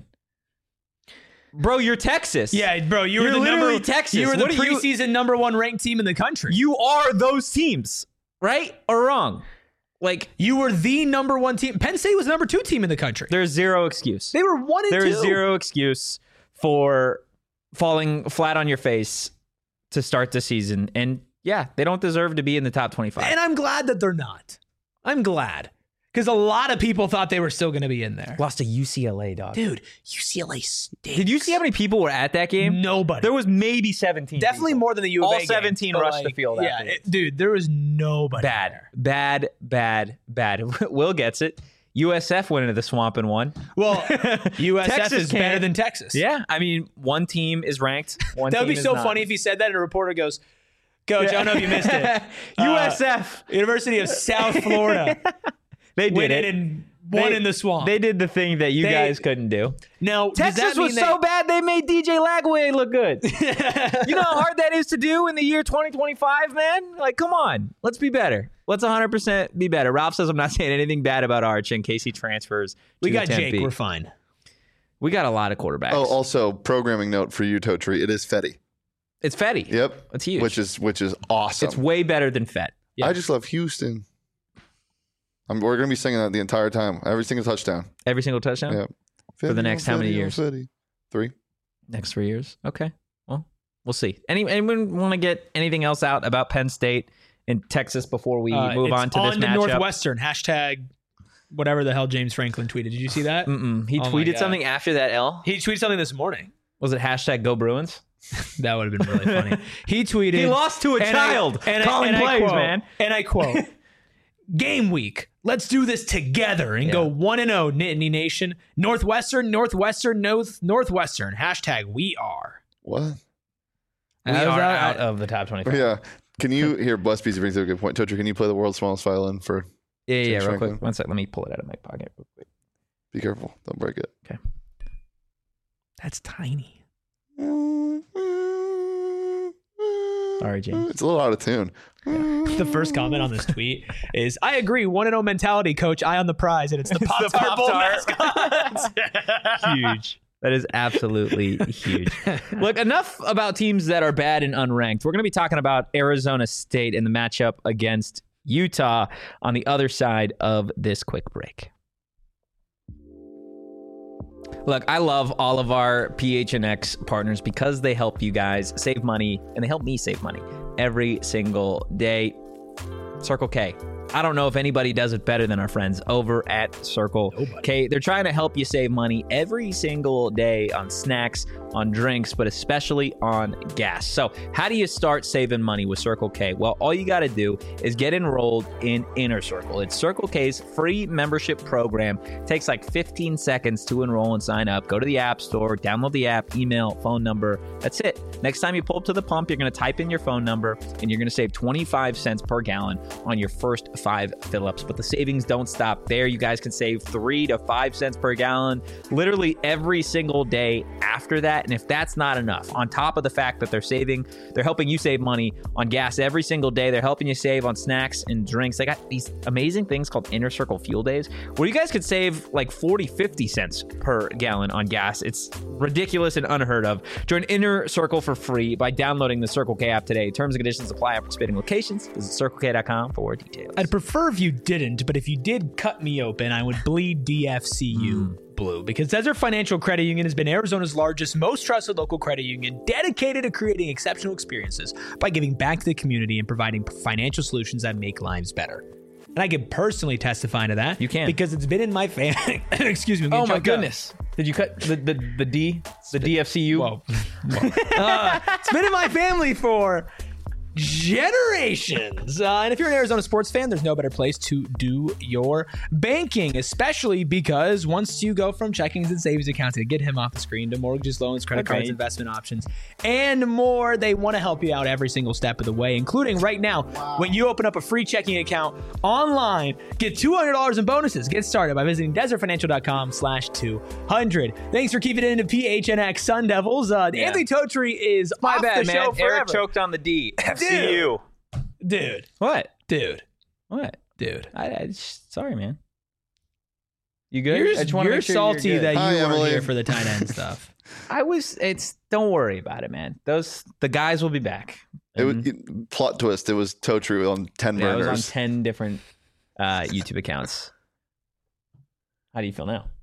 [SPEAKER 2] Bro, you're Texas.
[SPEAKER 1] Yeah, bro, you're
[SPEAKER 2] literally Texas.
[SPEAKER 1] You were the preseason number 1 ranked team in the country.
[SPEAKER 2] You are those teams, right or wrong? Like,
[SPEAKER 1] you were the number 1 team. Penn State was the number 2 team in the country.
[SPEAKER 2] There's zero excuse.
[SPEAKER 1] They were 1 and 2.
[SPEAKER 2] There's zero excuse for falling flat on your face to start the season. And yeah, they don't deserve to be in the top 25.
[SPEAKER 1] And I'm glad that they're not. I'm glad. Because a lot of people thought they were still going to be in there.
[SPEAKER 2] Lost to UCLA, dog.
[SPEAKER 1] Dude, UCLA stinks.
[SPEAKER 2] Did you see how many people were at that game?
[SPEAKER 1] Nobody.
[SPEAKER 2] There was maybe 17
[SPEAKER 1] Definitely
[SPEAKER 2] people.
[SPEAKER 1] more than the U of A
[SPEAKER 2] All 17
[SPEAKER 1] game,
[SPEAKER 2] rushed the field after.
[SPEAKER 1] Dude, there was nobody there.
[SPEAKER 2] Bad. Will gets it. USF went into the swamp and won.
[SPEAKER 1] Well, USF is better than Texas.
[SPEAKER 2] Yeah. I mean, one team is ranked.
[SPEAKER 1] That would be so funny if he said that and a reporter goes, Coach, I don't know if you missed it.
[SPEAKER 2] USF.
[SPEAKER 1] University of South Florida.
[SPEAKER 2] They did it.
[SPEAKER 1] And won in the swamp.
[SPEAKER 2] They did the thing that you guys couldn't do.
[SPEAKER 1] Now,
[SPEAKER 2] Texas was so bad they made DJ Lagway look good. You know how hard that is to do in the year 2025, man? Like, come on. Let's be better. Let's 100% be better. Ralph says I'm not saying anything bad about Arch in case he transfers.
[SPEAKER 1] We got Jake. We're fine.
[SPEAKER 2] We got a lot of quarterbacks.
[SPEAKER 3] Oh, also, programming note for you, Totri. It is Fetty.
[SPEAKER 2] It's Fetty.
[SPEAKER 3] Yep.
[SPEAKER 2] It's huge.
[SPEAKER 3] Which is awesome.
[SPEAKER 2] It's way better than Fett.
[SPEAKER 3] Yeah. I just love Houston. We're going to be singing that the entire time. Every single touchdown.
[SPEAKER 2] Every single touchdown?
[SPEAKER 3] Yeah.
[SPEAKER 2] For the next how many years?
[SPEAKER 3] 3.
[SPEAKER 2] Next 3 years? Okay. Well, we'll see. Anyone want to get anything else out about Penn State and Texas before we move on to this matchup?
[SPEAKER 1] Northwestern. Hashtag whatever the hell James Franklin tweeted. Did you see that?
[SPEAKER 2] He tweeted something after that L?
[SPEAKER 1] He tweeted something this morning.
[SPEAKER 2] Was it hashtag Go Bruins?
[SPEAKER 1] That would have been really funny. He tweeted.
[SPEAKER 2] He lost to a child. Calling plays, man.
[SPEAKER 1] And I quote, game week. Let's do this together and go 1-0, Nittany Nation. Northwestern. Hashtag we are.
[SPEAKER 3] What?
[SPEAKER 2] We are out of the top 25.
[SPEAKER 3] Yeah. Can you hear Bless Beasy brings up a good point. Totri, can you play the world's smallest violin for
[SPEAKER 2] Yeah, real quick. One sec. Let me pull it out of my pocket real quick.
[SPEAKER 3] Be careful. Don't break it.
[SPEAKER 2] Okay.
[SPEAKER 1] That's tiny.
[SPEAKER 2] Sorry, James.
[SPEAKER 3] It's a little out of tune.
[SPEAKER 1] The first comment on this tweet is, I agree, 1-0 mentality, coach. Eye on the prize, and it's the Pop-Tart Bowl mascot.
[SPEAKER 2] Huge. That is absolutely huge. Look, enough about teams that are bad and unranked. We're going to be talking about Arizona State and the matchup against Utah on the other side of this quick break. Look, I love all of our PHNX partners because they help you guys save money, and they help me save money every single day. Circle K. I don't know if anybody does it better than our friends over at Circle K. They're trying to help you save money every single day on snacks, on drinks, but especially on gas. So how do you start saving money with Circle K? Well, all you got to do is get enrolled in Inner Circle. It's Circle K's free membership program. It takes like 15 seconds to enroll and sign up. Go to the App Store, download the app, email, phone number. That's it. Next time you pull up to the pump, you're going to type in your phone number and you're going to save 25 cents per gallon on your first 5 fill-ups. But the savings don't stop there. You guys can save 3 to 5 cents per gallon literally every single day after that. And if that's not enough, on top of the fact that they're helping you save money on gas every single day. They're helping you save on snacks and drinks. They got these amazing things called Inner Circle Fuel Days, where you guys could save like 40-50 cents per gallon on gas. It's ridiculous and unheard of. Join Inner Circle for free by downloading the Circle K app today. Terms and conditions apply at participating locations. Visit CircleK.com for more details.
[SPEAKER 1] I'd prefer if you didn't, but if you did cut me open, I would bleed DFCU blue, because Desert Financial Credit Union has been Arizona's largest, most trusted local credit union, dedicated to creating exceptional experiences by giving back to the community and providing financial solutions that make lives better. And I can personally testify to that.
[SPEAKER 2] You can,
[SPEAKER 1] because it's been in my family. Excuse me.
[SPEAKER 2] Oh my goodness! Did you cut the DFCU?
[SPEAKER 1] Whoa. It's been in my family for generations. And if you're an Arizona sports fan, there's no better place to do your banking, especially because once you go from checkings and savings accounts to get him off the screen to mortgages, loans, credit cards, investment options, and more, they want to help you out every single step of the way, including right now, when you open up a free checking account online, get $200 in bonuses. Get started by visiting desertfinancial.com/200. Thanks for keeping it into PHNX Sun Devils. Anthony Totri is off the show forever.
[SPEAKER 2] Eric choked on the D. FCU.
[SPEAKER 1] Dude.
[SPEAKER 2] What?
[SPEAKER 1] Dude.
[SPEAKER 2] What?
[SPEAKER 1] Dude.
[SPEAKER 2] Sorry, man. You good?
[SPEAKER 1] You're salty that you weren't here for the tight end stuff.
[SPEAKER 2] Don't worry about it, man. The guys will be back.
[SPEAKER 3] Plot twist. It was Totri on 10 burners.
[SPEAKER 2] It was on 10 different YouTube accounts. How do you feel now?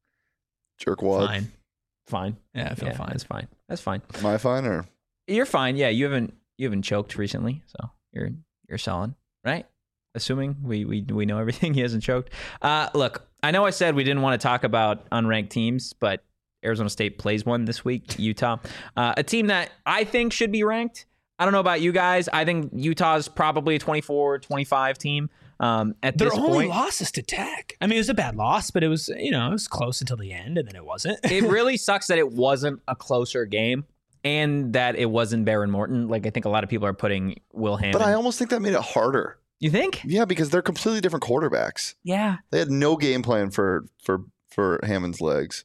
[SPEAKER 3] Jerkwad.
[SPEAKER 2] Fine.
[SPEAKER 1] Yeah, I feel fine.
[SPEAKER 2] That's fine.
[SPEAKER 3] Am I fine or?
[SPEAKER 2] You're fine. Yeah, you haven't choked recently, so you're solid, right? Assuming we know everything. He hasn't choked. Look, I know I said we didn't want to talk about unranked teams, but Arizona State plays one this week, Utah. A team that I think should be ranked. I don't know about you guys. I think Utah's probably a 24-25 team. At
[SPEAKER 1] their
[SPEAKER 2] this
[SPEAKER 1] only
[SPEAKER 2] point,
[SPEAKER 1] loss is to Tech. I mean, it was a bad loss, but it was close until the end, and then it wasn't.
[SPEAKER 2] It really sucks that it wasn't a closer game, and that it wasn't Behren Morton. Like, I think a lot of people are putting Will Hammond.
[SPEAKER 3] But I almost think that made it harder.
[SPEAKER 2] You think?
[SPEAKER 3] Yeah, because they're completely different quarterbacks.
[SPEAKER 2] Yeah.
[SPEAKER 3] They had no game plan for Hammond's legs.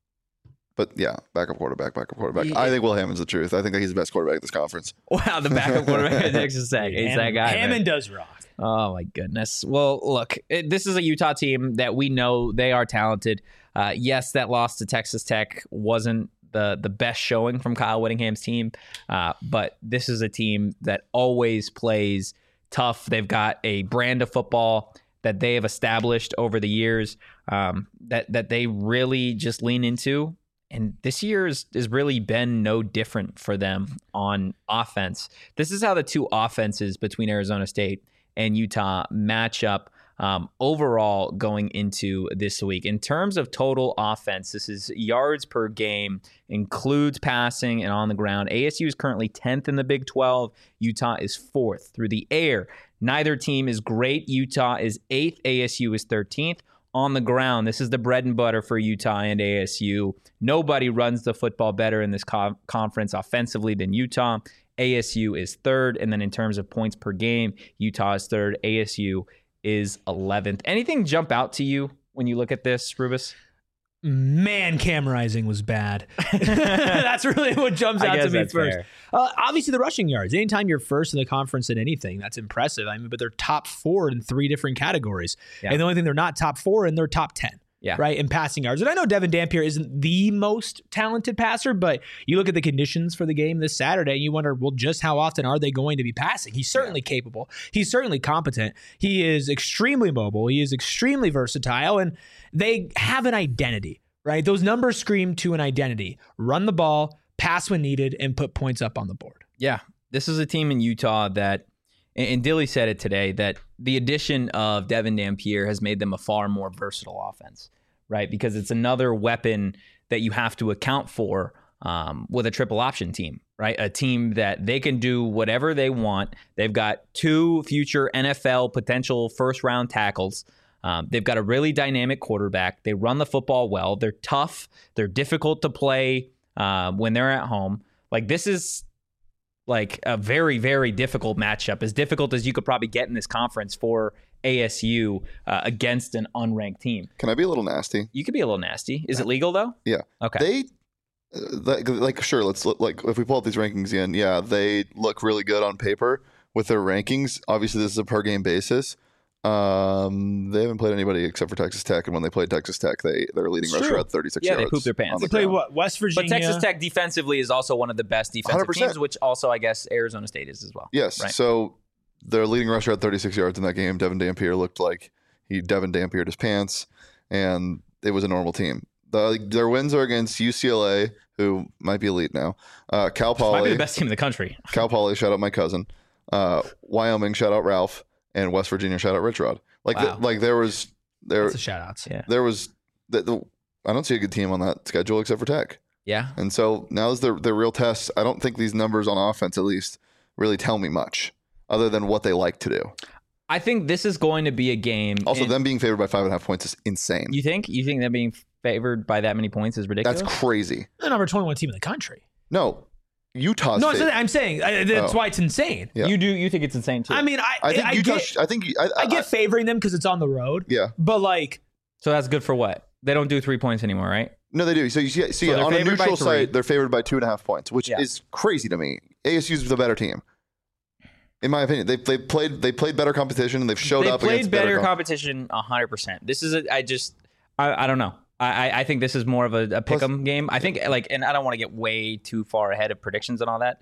[SPEAKER 3] But yeah, backup quarterback. Yeah. I think Will Hammond's the truth. I think that he's the best quarterback in this conference.
[SPEAKER 2] Wow, the backup quarterback at Texas Tech. He's that guy.
[SPEAKER 1] Hammond does rock.
[SPEAKER 2] Oh, my goodness. Well, look, this is a Utah team that we know they are talented. Yes, that loss to Texas Tech wasn't the best showing from Kyle Whittingham's team, but this is a team that always plays tough. They've got a brand of football that they have established over the years that they really just lean into. And this year has really been no different for them on offense. This is how the two offenses between Arizona State and Utah match up overall going into this week. In terms of total offense, this is yards per game, includes passing and on the ground. ASU is currently 10th in the Big 12. Utah is 4th. Through the air, neither team is great. Utah is 8th. ASU is 13th. On the ground, this is the bread and butter for Utah and ASU. Nobody runs the football better in this conference offensively than Utah. ASU is 3rd. And then in terms of points per game, Utah is 3rd. ASU is 11th. Anything jump out to you when you look at this, Rubus?
[SPEAKER 1] Man, Cam Rising was bad. That's really what jumps out to me first. Obviously, the rushing yards. Anytime you're first in the conference in anything, that's impressive. I mean, but they're top 4 in 3 different categories. Yeah. And the only thing they're not top 4 in, they're top 10.
[SPEAKER 2] Yeah.
[SPEAKER 1] Right, in passing yards. And I know Devin Dampier isn't the most talented passer, but you look at the conditions for the game this Saturday, and you wonder, well, just how often are they going to be passing? He's certainly capable. He's certainly competent. He is extremely mobile. He is extremely versatile, and they have an identity, right? Those numbers scream to an identity. Run the ball, pass when needed, and put points up on the board.
[SPEAKER 2] Yeah, this is a team in Utah that, and Dilly said it today, that the addition of Devin Dampier has made them a far more versatile offense, right? Because it's another weapon that you have to account for with a triple option team, right? A team that they can do whatever they want. They've got 2 future NFL potential first-round tackles. They've got a really dynamic quarterback. They run the football well. They're tough. They're difficult to play when they're at home. Like, this is like a very, very difficult matchup, as difficult as you could probably get in this conference for ASU against an unranked team.
[SPEAKER 3] Can I be a little nasty?
[SPEAKER 2] You could be a little nasty. Is it legal, though?
[SPEAKER 3] Yeah.
[SPEAKER 2] Okay.
[SPEAKER 3] Sure, let's look, like if we pull up these rankings again, yeah, they look really good on paper with their rankings. Obviously, this is a per game basis. They haven't played anybody except for Texas Tech, and when they played Texas Tech, their leading rusher had 36 yards.
[SPEAKER 2] Yeah, they pooped their pants.
[SPEAKER 1] They played what? West Virginia.
[SPEAKER 2] But Texas Tech defensively is also one of the best defensive
[SPEAKER 3] 100%.
[SPEAKER 2] teams, which also I guess Arizona State is as well.
[SPEAKER 3] Yes. Right? So their leading rusher had 36 yards in that game. Devin Dampier looked like Devin Dampiered his pants, and it was a normal team. Their wins are against UCLA, who might be elite now. Cal Poly.
[SPEAKER 2] Might be the best team in the country.
[SPEAKER 3] Cal Poly, shout out my cousin. Wyoming, shout out Ralph. And West Virginia, shout out Rich Rod. There was
[SPEAKER 1] Lots of shout outs.
[SPEAKER 3] Yeah. There was I don't see a good team on that schedule except for Tech.
[SPEAKER 2] Yeah.
[SPEAKER 3] And so now is their real test. I don't think these numbers on offense, at least, really tell me much other than what they like to do.
[SPEAKER 2] I think this is going to be a game.
[SPEAKER 3] Also, them being favored by 5.5 points is insane.
[SPEAKER 2] You think them being favored by that many points is ridiculous?
[SPEAKER 3] That's crazy.
[SPEAKER 1] The number 21 team in the country.
[SPEAKER 3] No. Utah's
[SPEAKER 1] No, I'm saying that's why it's insane.
[SPEAKER 3] Yeah.
[SPEAKER 2] You think it's insane too.
[SPEAKER 1] I mean, I get favoring them because it's on the road.
[SPEAKER 3] Yeah.
[SPEAKER 1] But
[SPEAKER 2] so that's good for what? They don't do 3 points anymore, right?
[SPEAKER 3] No, they do. So you see on a neutral site, they're favored by 2.5 points, which is crazy to me. ASU's the better team. In my opinion, they played better competition and they've showed up against
[SPEAKER 2] better competition 100%. This is I don't know. I think this is more of a pick'em game. I think and I don't want to get way too far ahead of predictions and all that.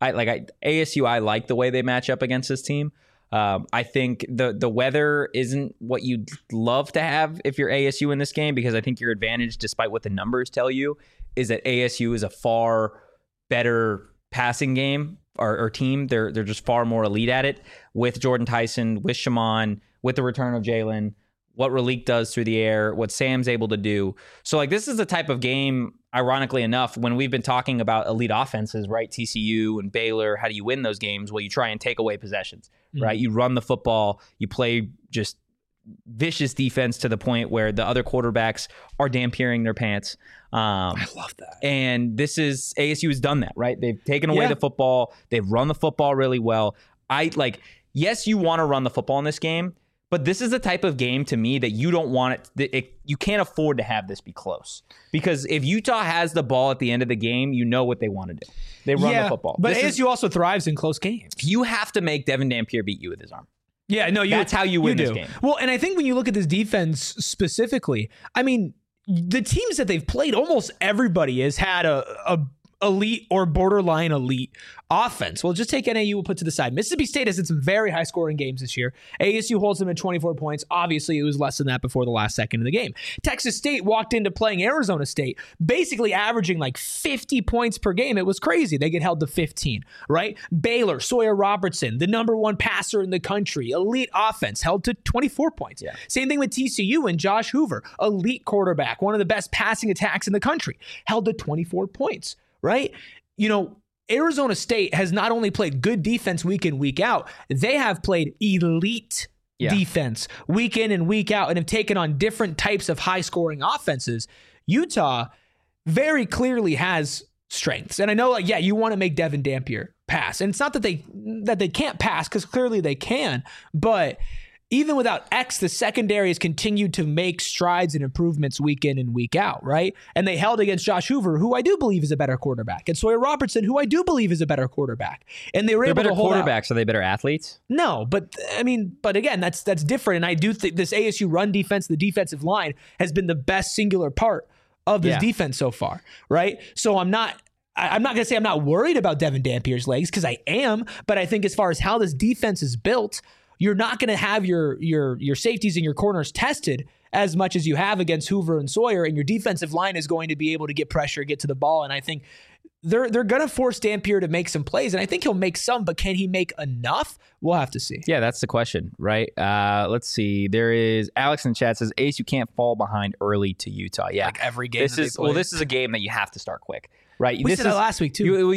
[SPEAKER 2] ASU. I like the way they match up against this team. I think the weather isn't what you'd love to have if you're ASU in this game, because I think your advantage, despite what the numbers tell you, is that ASU is a far better passing game or team. They're just far more elite at it with Jordan Tyson, with Shaman, with the return of Jalen, what Raleek does through the air, what Sam's able to do. So this is the type of game, ironically enough, when we've been talking about elite offenses, right? TCU and Baylor, how do you win those games? Well, you try and take away possessions, right? You run the football, you play just vicious defense to the point where the other quarterbacks are dampiering their pants.
[SPEAKER 1] I love that.
[SPEAKER 2] And ASU has done that, right? They've taken away the football. They've run the football really well. Yes, you want to run the football in this game, but this is the type of game to me that you don't want you can't afford to have this be close, because if Utah has the ball at the end of the game, you know what they want to do. They run the football.
[SPEAKER 1] But ASU also thrives in close games.
[SPEAKER 2] You have to make Devin Dampier beat you with his arm.
[SPEAKER 1] Yeah, no,
[SPEAKER 2] that's how you win this game.
[SPEAKER 1] Well, and I think when you look at this defense specifically, I mean, the teams that they've played, almost everybody has had a elite or borderline elite offense. Well, just take NAU, we'll put to the side. Mississippi State has had some very high scoring games this year. ASU holds them at 24 points. Obviously, it was less than that before the last second of the game. Texas State walked into playing Arizona State, basically averaging 50 points per game. It was crazy. They get held to 15, right? Baylor, Sawyer Robertson, the number one passer in the country, elite offense, held to 24 points. Yeah. Same thing with TCU and Josh Hoover, elite quarterback, one of the best passing attacks in the country, held to 24 points. Right? Arizona State has not only played good defense week in, week out, they have played elite defense week in and week out and have taken on different types of high-scoring offenses. Utah very clearly has strengths. And I know, you want to make Devin Dampier pass. And it's not that they can't pass, because clearly they can, but even without X, the secondary has continued to make strides and improvements week in and week out, right? And they held against Josh Hoover, who I do believe is a better quarterback, and Sawyer Robertson, who I do believe is a better quarterback. And they were able to hold out.
[SPEAKER 2] Quarterbacks. Are they better athletes?
[SPEAKER 1] No, but again, that's different. And I do think this ASU run defense, the defensive line, has been the best singular part of this defense so far, right? So I'm not going to say I'm not worried about Devin Dampier's legs, because I am, but I think as far as how this defense is built, you're not going to have your safeties and your corners tested as much as you have against Hoover and Sawyer, and your defensive line is going to be able to get pressure, get to the ball, and I think they're going to force Dampier to make some plays, and I think he'll make some, but can he make enough? We'll have to see.
[SPEAKER 2] Yeah, that's the question, right? Let's see. There is Alex in chat says, Ace, you can't fall behind early to Utah. Yeah,
[SPEAKER 1] every game.
[SPEAKER 2] This is a game that you have to start quick, right?
[SPEAKER 1] We said that last week too.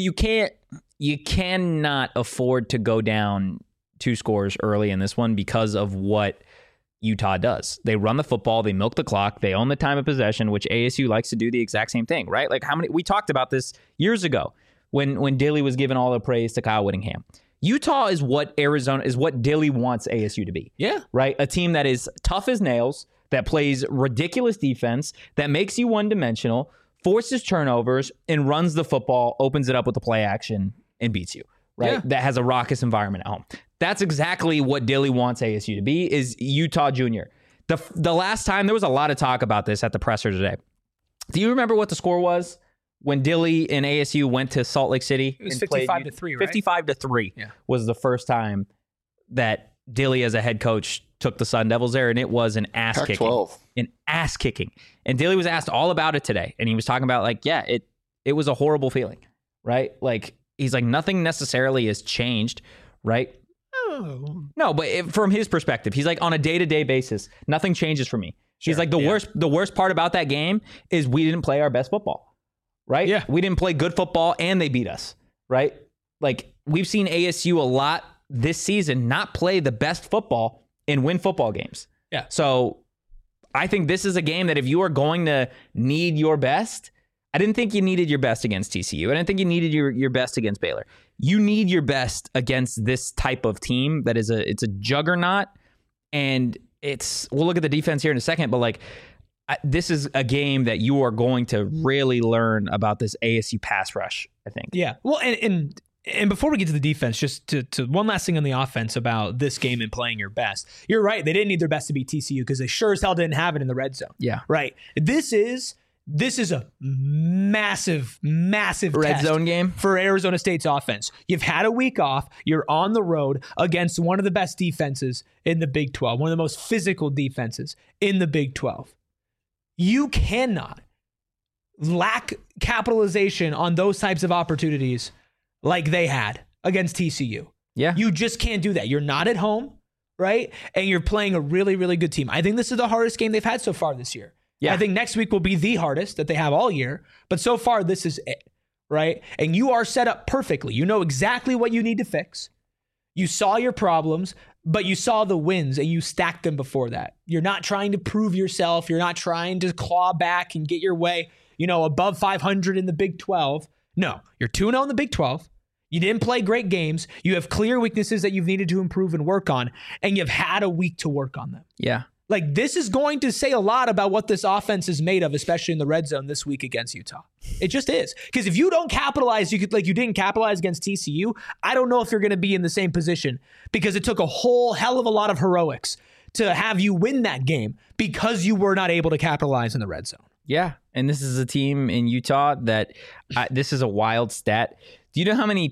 [SPEAKER 2] You cannot afford to go down 2 scores early in this one because of what Utah does. They run the football, they milk the clock, they own the time of possession, which ASU likes to do the exact same thing, right? We talked about this years ago when Dilly was giving all the praise to Kyle Whittingham. Utah is what Dilly wants ASU to be.
[SPEAKER 1] Yeah.
[SPEAKER 2] Right? A team that is tough as nails, that plays ridiculous defense, that makes you one-dimensional, forces turnovers and runs the football, opens it up with the play action, and beats you, right?
[SPEAKER 1] Yeah.
[SPEAKER 2] That has a raucous environment at home. That's exactly what Dilly wants ASU to be, is Utah Junior. The last time, there was a lot of talk about this at the presser today. Do you remember what the score was when Dilly and ASU went to Salt Lake City?
[SPEAKER 1] It was 55-3, right?
[SPEAKER 2] 55-3 was the first time that Dilly as a head coach took the Sun Devils there, and it was an ass kicking.
[SPEAKER 3] Pac-12.
[SPEAKER 2] An ass kicking. And Dilly was asked all about it today, and he was talking about like, yeah, it was a horrible feeling, right? Like, he's like, nothing necessarily has changed, right? No, but from his perspective, he's like, on a day-to-day basis, nothing changes for me. Sure, he's like, the worst part about that game is we didn't play our best football, right?
[SPEAKER 1] Yeah.
[SPEAKER 2] We didn't play good football and they beat us, right? Like, we've seen ASU a lot this season not play the best football and win football games.
[SPEAKER 1] Yeah.
[SPEAKER 2] So I think this is a game that if you are going to need your best, I didn't think you needed your best against TCU. I didn't think you needed your best against Baylor. You need your best against this type of team that is it's a juggernaut, and we'll look at the defense here in a second, but like, this is a game that you are going to really learn about this ASU pass rush, I think.
[SPEAKER 1] Yeah. Well, and before we get to the defense, just to one last thing on the offense about this game and playing your best. You're right. They didn't need their best to beat TCU because they sure as hell didn't have it in the red zone.
[SPEAKER 2] Yeah.
[SPEAKER 1] Right. This is a massive
[SPEAKER 2] red
[SPEAKER 1] test
[SPEAKER 2] zone game
[SPEAKER 1] for Arizona State's offense. You've had a week off. You're on the road against one of the best defenses in the Big 12, one of the most physical defenses in the Big 12. You cannot lack capitalization on those types of opportunities like they had against TCU.
[SPEAKER 2] Yeah.
[SPEAKER 1] You just can't do that. You're not at home, right? And you're playing a really, really good team. I think this is the hardest game they've had so far this year. Yeah. I think next week will be the hardest that they have all year, but so far this is it, right? And you are set up perfectly. You know exactly what you need to fix. You saw your problems, but you saw the wins and you stacked them before that. You're not trying to prove yourself. You're not trying to claw back and get your way, above 500 in the Big 12. No, you're 2-0 in the Big 12. You didn't play great games. You have clear weaknesses that you've needed to improve and work on, and you've had a week to work on them.
[SPEAKER 2] Yeah.
[SPEAKER 1] Like, this is going to say a lot about what this offense is made of, especially in the red zone this week against Utah. It just is. Because if you don't capitalize, you didn't capitalize against TCU, I don't know if you're going to be in the same position, because it took a whole hell of a lot of heroics to have you win that game because you were not able to capitalize in the red zone.
[SPEAKER 2] Yeah. And this is a team in Utah that this is a wild stat. Do you know how many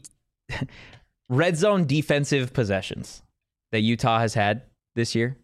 [SPEAKER 2] red zone defensive possessions that Utah has had this year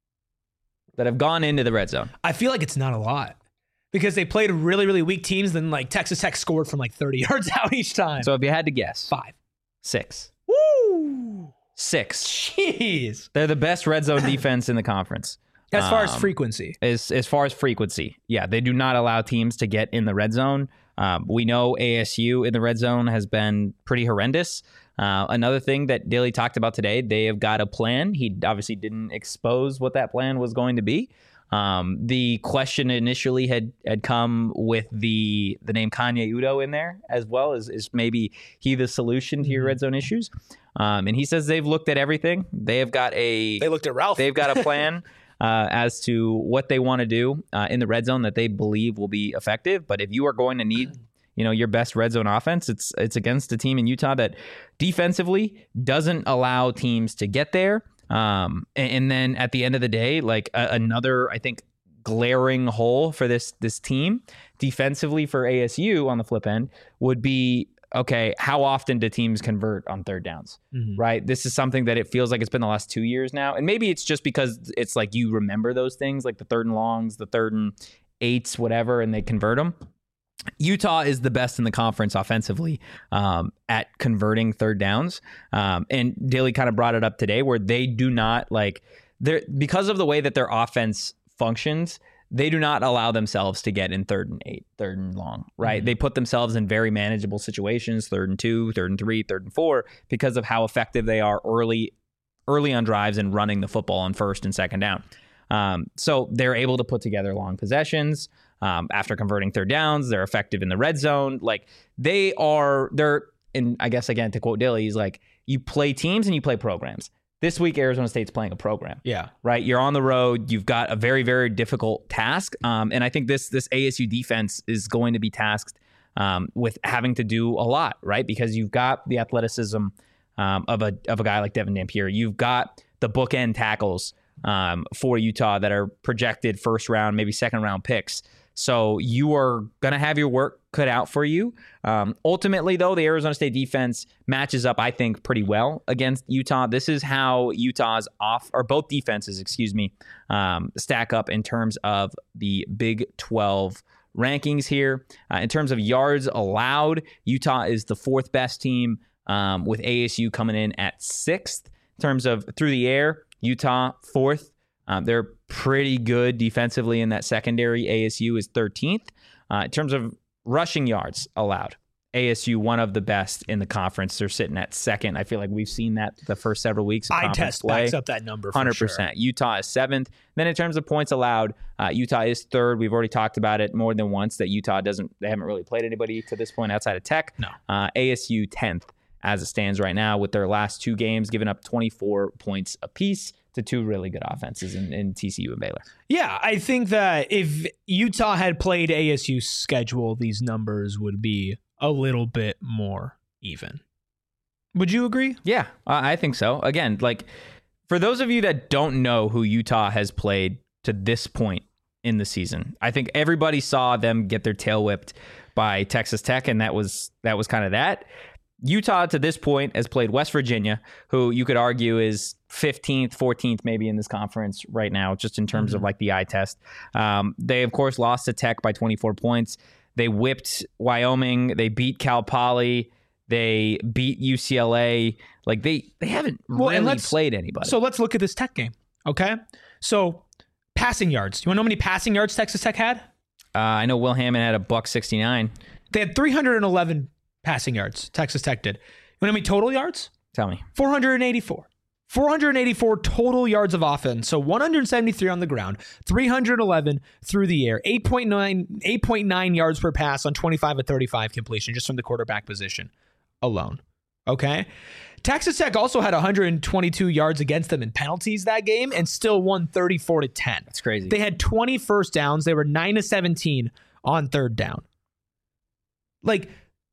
[SPEAKER 2] that have gone into the red zone?
[SPEAKER 1] I feel like it's not a lot because they played really, really weak teams. Then like Texas Tech scored from like 30 yards out each time.
[SPEAKER 2] So if you had to guess,
[SPEAKER 1] 5,
[SPEAKER 2] 6.
[SPEAKER 1] Woo!
[SPEAKER 2] 6.
[SPEAKER 1] Jeez.
[SPEAKER 2] They're the best red zone defense in the conference.
[SPEAKER 1] As far as frequency.
[SPEAKER 2] As far as frequency. Yeah, they do not allow teams to get in the red zone. We know ASU in the red zone has been pretty horrendous. Another thing that Dilly talked about today, they have got a plan. He obviously didn't expose what that plan was going to be. The question initially had come with the name Kanye Udo in there as well. Is maybe he the solution to your red zone issues? And he says they've looked at everything. They
[SPEAKER 1] looked at Ralph.
[SPEAKER 2] They've got a plan as to what they want to do in the red zone that they believe will be effective. But if you are going to need your best red zone offense, it's against a team in Utah that defensively doesn't allow teams to get there. And then at the end of the day, like another, I think, glaring hole for this team defensively for ASU on the flip end would be, okay, how often do teams convert on third downs, right? This is something that it feels like it's been the last 2 years now. And maybe it's just because it's like you remember those things, like the 3rd and longs, the 3rd and 8s, whatever, and they convert them. Utah is the best in the conference offensively at converting third downs. And Dilly kind of brought it up today where they do not because of the way that their offense functions, they do not allow themselves to get in 3rd and 8, 3rd and long, right? Mm-hmm. They put themselves in very manageable situations, 3rd and 2, 3rd and 3, 3rd and 4, because of how effective they are early on drives and running the football on 1st and 2nd down. So they're able to put together long possessions. After converting third downs, they're effective in the red zone. Like and I guess again, to quote Dilly, he's like, you play teams and you play programs. This week, Arizona State's playing a program.
[SPEAKER 1] Yeah.
[SPEAKER 2] Right? You're on the road. You've got a very, very difficult task. And I think this ASU defense is going to be tasked with having to do a lot, right? Because you've got the athleticism of a guy like Devin Dampier. You've got the bookend tackles for Utah that are projected first round, maybe second round picks. So you are going to have your work cut out for you. Ultimately, though, the Arizona State defense matches up, I think, pretty well against Utah. This is how Utah's both defenses, stack up in terms of the Big 12 rankings here. In terms of yards allowed, Utah is the fourth best team, with ASU coming in at sixth. In terms of through the air, Utah fourth. They're pretty good defensively in that secondary. ASU is 13th. In terms of rushing yards allowed, ASU one of the best in the conference. They're sitting at second. I feel like we've seen that the first several weeks of conference play.
[SPEAKER 1] Backs up that number for
[SPEAKER 2] 100%.
[SPEAKER 1] Sure.
[SPEAKER 2] Utah is seventh. Then in terms of points allowed, Utah is third. We've already talked about it more than once that Utah they haven't really played anybody to this point outside of Tech.
[SPEAKER 1] No.
[SPEAKER 2] ASU 10th as it stands right now with their last two games, giving up 24 points apiece to two really good offenses in TCU and Baylor.
[SPEAKER 1] Yeah, I think that if Utah had played ASU's schedule, these numbers would be a little bit more even. Would you agree?
[SPEAKER 2] Yeah, I think so. Again, like for those of you that don't know who Utah has played to this point in the season, I think everybody saw them get their tail whipped by Texas Tech, and that was kind of that. Utah to this point has played West Virginia, who you could argue is 15th, 14th maybe in this conference right now, just in terms of like the eye test. They, of course, lost to Tech by 24 points. They whipped Wyoming. They beat Cal Poly. They beat UCLA. Like they haven't really played anybody.
[SPEAKER 1] So let's look at this Tech game, okay? So passing yards. Do you want to know how many passing yards Texas Tech had?
[SPEAKER 2] I know Will Hammond had $169.
[SPEAKER 1] They had 311 passing yards. Texas Tech did. You want to know how many total yards?
[SPEAKER 2] Tell me.
[SPEAKER 1] 484. 484 total yards of offense. So 173 on the ground, 311 through the air, 8.9 yards per pass on 25 of 35 completion just from the quarterback position alone. Okay. Texas Tech also had 122 yards against them in penalties that game and still won 34-10.
[SPEAKER 2] That's crazy.
[SPEAKER 1] They had 20 first downs. They were 9 of 17 on third down. Like,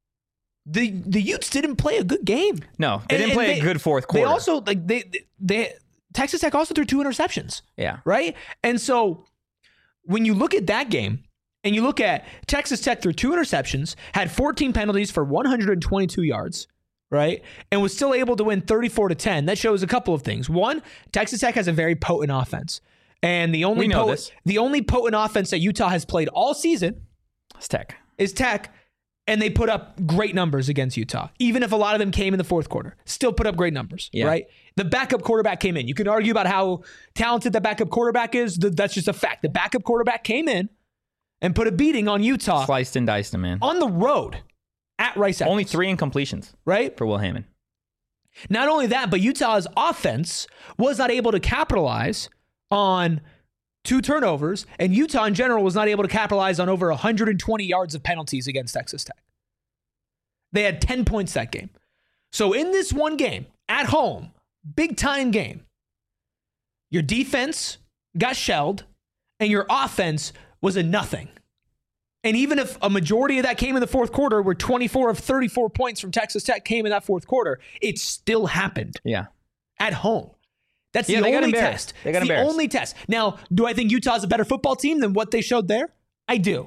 [SPEAKER 1] the Utes didn't play a good game.
[SPEAKER 2] No, they didn't play a good fourth quarter.
[SPEAKER 1] They also they Texas Tech also threw 2 interceptions.
[SPEAKER 2] Yeah.
[SPEAKER 1] Right? And so when you look at that game and you look at Texas Tech threw 2 interceptions, had 14 penalties for 122 yards, right? And was still able to win 34-10. That shows a couple of things. One, Texas Tech has a very potent offense. And the only potent offense that Utah has played all season is Tech. And they put up great numbers against Utah, even if a lot of them came in the fourth quarter. Still put up great numbers, right? The backup quarterback came in. You can argue about how talented the backup quarterback is. That's just a fact. The backup quarterback came in and put a beating on Utah.
[SPEAKER 2] Sliced and diced them, man.
[SPEAKER 1] On the road at Rice Eccles.
[SPEAKER 2] Only 3 incompletions,
[SPEAKER 1] right?
[SPEAKER 2] For Will Hammond.
[SPEAKER 1] Not only that, but Utah's offense was not able to capitalize on 2 turnovers, and Utah in general was not able to capitalize on over 120 yards of penalties against Texas Tech. They had 10 points that game. So in this one game, at home, big time game, your defense got shelled, and your offense was a nothing. And even if a majority of that came in the fourth quarter, where 24 of 34 points from Texas Tech came in that fourth quarter, it still happened.
[SPEAKER 2] Yeah.
[SPEAKER 1] At home. That's the only test.
[SPEAKER 2] They got
[SPEAKER 1] the only test. Now, do I think Utah's a better football team than what they showed there? I do.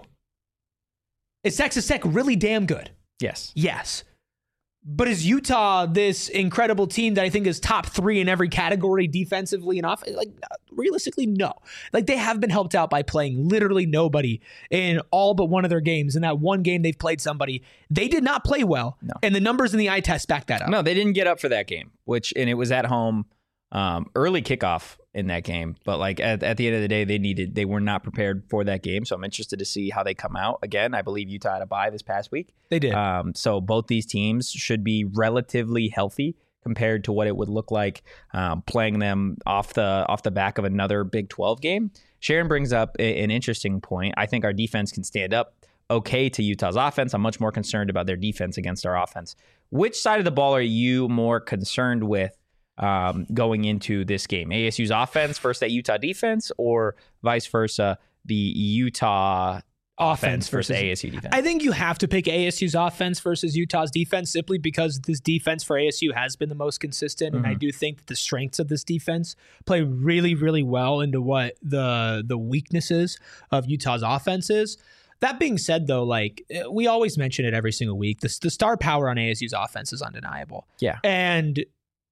[SPEAKER 1] Is Texas Tech really damn good?
[SPEAKER 2] Yes.
[SPEAKER 1] Yes. But is Utah this incredible team that I think is top 3 in every category defensively and offensively? Like, realistically, no. Like, they have been helped out by playing literally nobody in all but one of their games. In that one game they've played somebody, they did not play well. No. And the numbers in the eye test back that up.
[SPEAKER 2] No, they didn't get up for that game, and it was at home. Early kickoff in that game, but like at the end of the day, they were not prepared for that game. So I'm interested to see how they come out. Again, I believe Utah had a bye this past week.
[SPEAKER 1] They did.
[SPEAKER 2] So both these teams should be relatively healthy compared to what it would look like playing them off the back of another Big 12 game. Sharon brings up an interesting point. I think our defense can stand up okay to Utah's offense. I'm much more concerned about their defense against our offense. Which side of the ball are you more concerned with going into this game? ASU's offense versus that Utah defense, or vice versa, the Utah offense versus ASU defense?
[SPEAKER 1] I think you have to pick ASU's offense versus Utah's defense simply because this defense for ASU has been the most consistent. And I do think that the strengths of this defense play really, really well into what the weaknesses of Utah's offense is. That being said, though, like we always mention it every single week, the star power on ASU's offense is undeniable.
[SPEAKER 2] Yeah.
[SPEAKER 1] And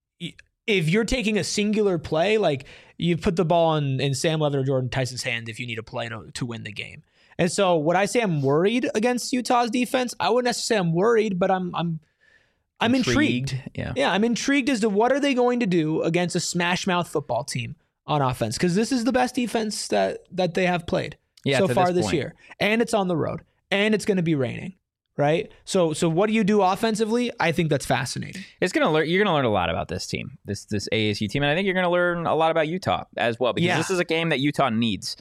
[SPEAKER 1] if you're taking a singular play, like you put the ball in Sam Levitt or Jordan Tyson's hand if you need a play to win the game. And so would I say I'm worried against Utah's defense? I wouldn't necessarily say I'm worried, but I'm intrigued. Yeah, I'm intrigued as to what are they going to do against a smash mouth football team on offense, because this is the best defense that they have played so far this year. And it's on the road. And it's going to be raining. Right. So what do you do offensively? I think that's fascinating.
[SPEAKER 2] You're going to learn a lot about this team, this ASU team. And I think you're going to learn a lot about Utah as well, because this is a game that Utah needs.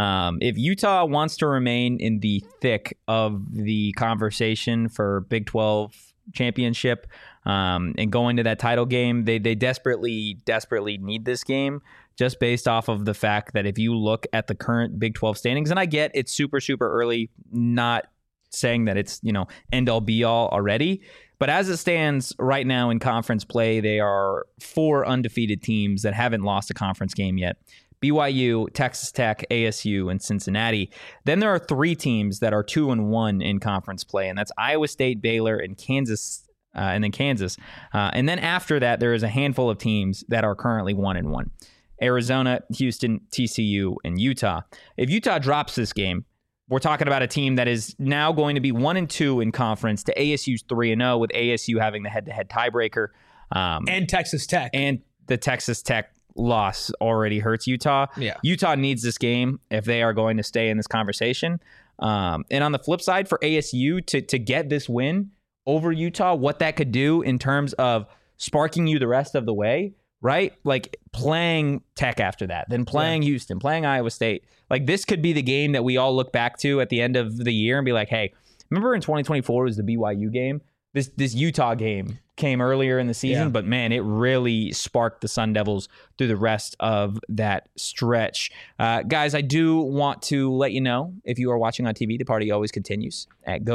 [SPEAKER 2] If Utah wants to remain in the thick of the conversation for Big 12 championship and go into that title game, they desperately need this game, just based off of the fact that if you look at the current Big 12 standings, and I get it's super, super early, not saying that it's, end all be all already. But as it stands right now in conference play, they are 4 undefeated teams that haven't lost a conference game yet. BYU, Texas Tech, ASU, and Cincinnati. Then there are 3 teams that are 2-1 in conference play, and that's Iowa State, Baylor, and Kansas, and then Kansas. And then after that, there is a handful of teams that are currently 1-1. Arizona, Houston, TCU, and Utah. If Utah drops this game, we're talking about a team that is now going to be 1-2 in conference to ASU's 3-0, with ASU having the head-to-head tiebreaker.
[SPEAKER 1] And Texas Tech.
[SPEAKER 2] And the Texas Tech loss already hurts Utah.
[SPEAKER 1] Yeah.
[SPEAKER 2] Utah needs this game if they are going to stay in this conversation. And on the flip side, for ASU to get this win over Utah, what that could do in terms of sparking you the rest of the way, right? Like playing Tech after that, then playing Houston, playing Iowa State. Like this could be the game that we all look back to at the end of the year and be like, hey, remember in 2024 was the BYU game? This Utah game came earlier in the season, but man, it really sparked the Sun Devils through the rest of that stretch. Guys, I do want to let you know, if you are watching on TV, the party always continues at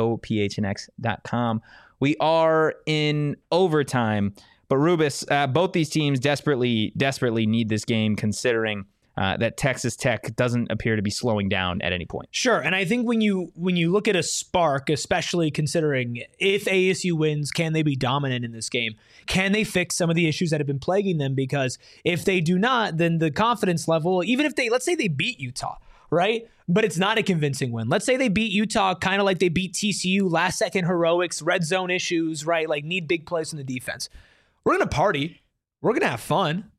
[SPEAKER 2] gophnx.com. We are in overtime, but Rubus, both these teams desperately need this game, considering that Texas Tech doesn't appear to be slowing down at any point.
[SPEAKER 1] Sure, and I think when you look at a spark, especially considering if ASU wins, can they be dominant in this game? Can they fix some of the issues that have been plaguing them? Because if they do not, then the confidence level, even if let's say they beat Utah, right? But it's not a convincing win. Let's say they beat Utah kind of like they beat TCU, last second heroics, red zone issues, right? Like need big plays in the defense. We're going to party. We're going to have fun.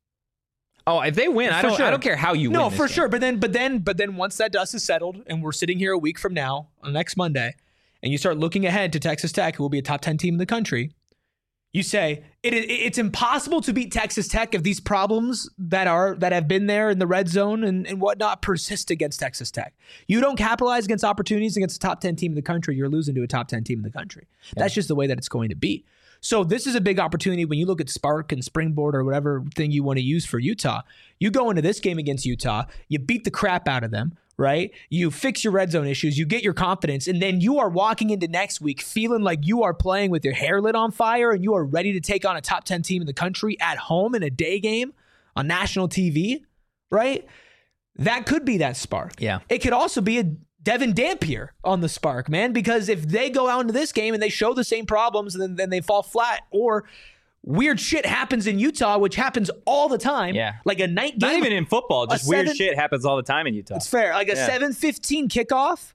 [SPEAKER 2] Oh, if they win, I don't care how you win.
[SPEAKER 1] No, for
[SPEAKER 2] game.
[SPEAKER 1] sure. But then once that dust is settled and we're sitting here a week from now on next Monday, and you start looking ahead to Texas Tech, who will be a top 10 team in the country, you say it's impossible to beat Texas Tech if these problems that have been there in the red zone and whatnot persist against Texas Tech. You don't capitalize against opportunities against a top 10 team in the country, you're losing to a top 10 team in the country. Yeah. That's just the way that it's going to be. So this is a big opportunity when you look at Spark and Springboard or whatever thing you want to use for Utah. You go into this game against Utah, you beat the crap out of them, right? You fix your red zone issues, you get your confidence, and then you are walking into next week feeling like you are playing with your hair lit on fire and you are ready to take on a top 10 team in the country at home in a day game on national TV, right? That could be that spark.
[SPEAKER 2] Yeah.
[SPEAKER 1] It could also be a Devin Dampier on the spark, man, because if they go out into this game and they show the same problems and then they fall flat, or weird shit happens in Utah, which happens all the time.
[SPEAKER 2] Yeah.
[SPEAKER 1] Like a night game.
[SPEAKER 2] Not even in football, just weird shit happens all the time in Utah.
[SPEAKER 1] It's fair. Like a 7:15 kickoff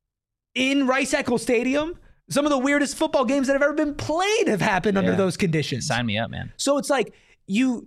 [SPEAKER 1] in Rice-Eccles Stadium. Some of the weirdest football games that have ever been played have happened under those conditions.
[SPEAKER 2] Sign me up, man.
[SPEAKER 1] So it's like you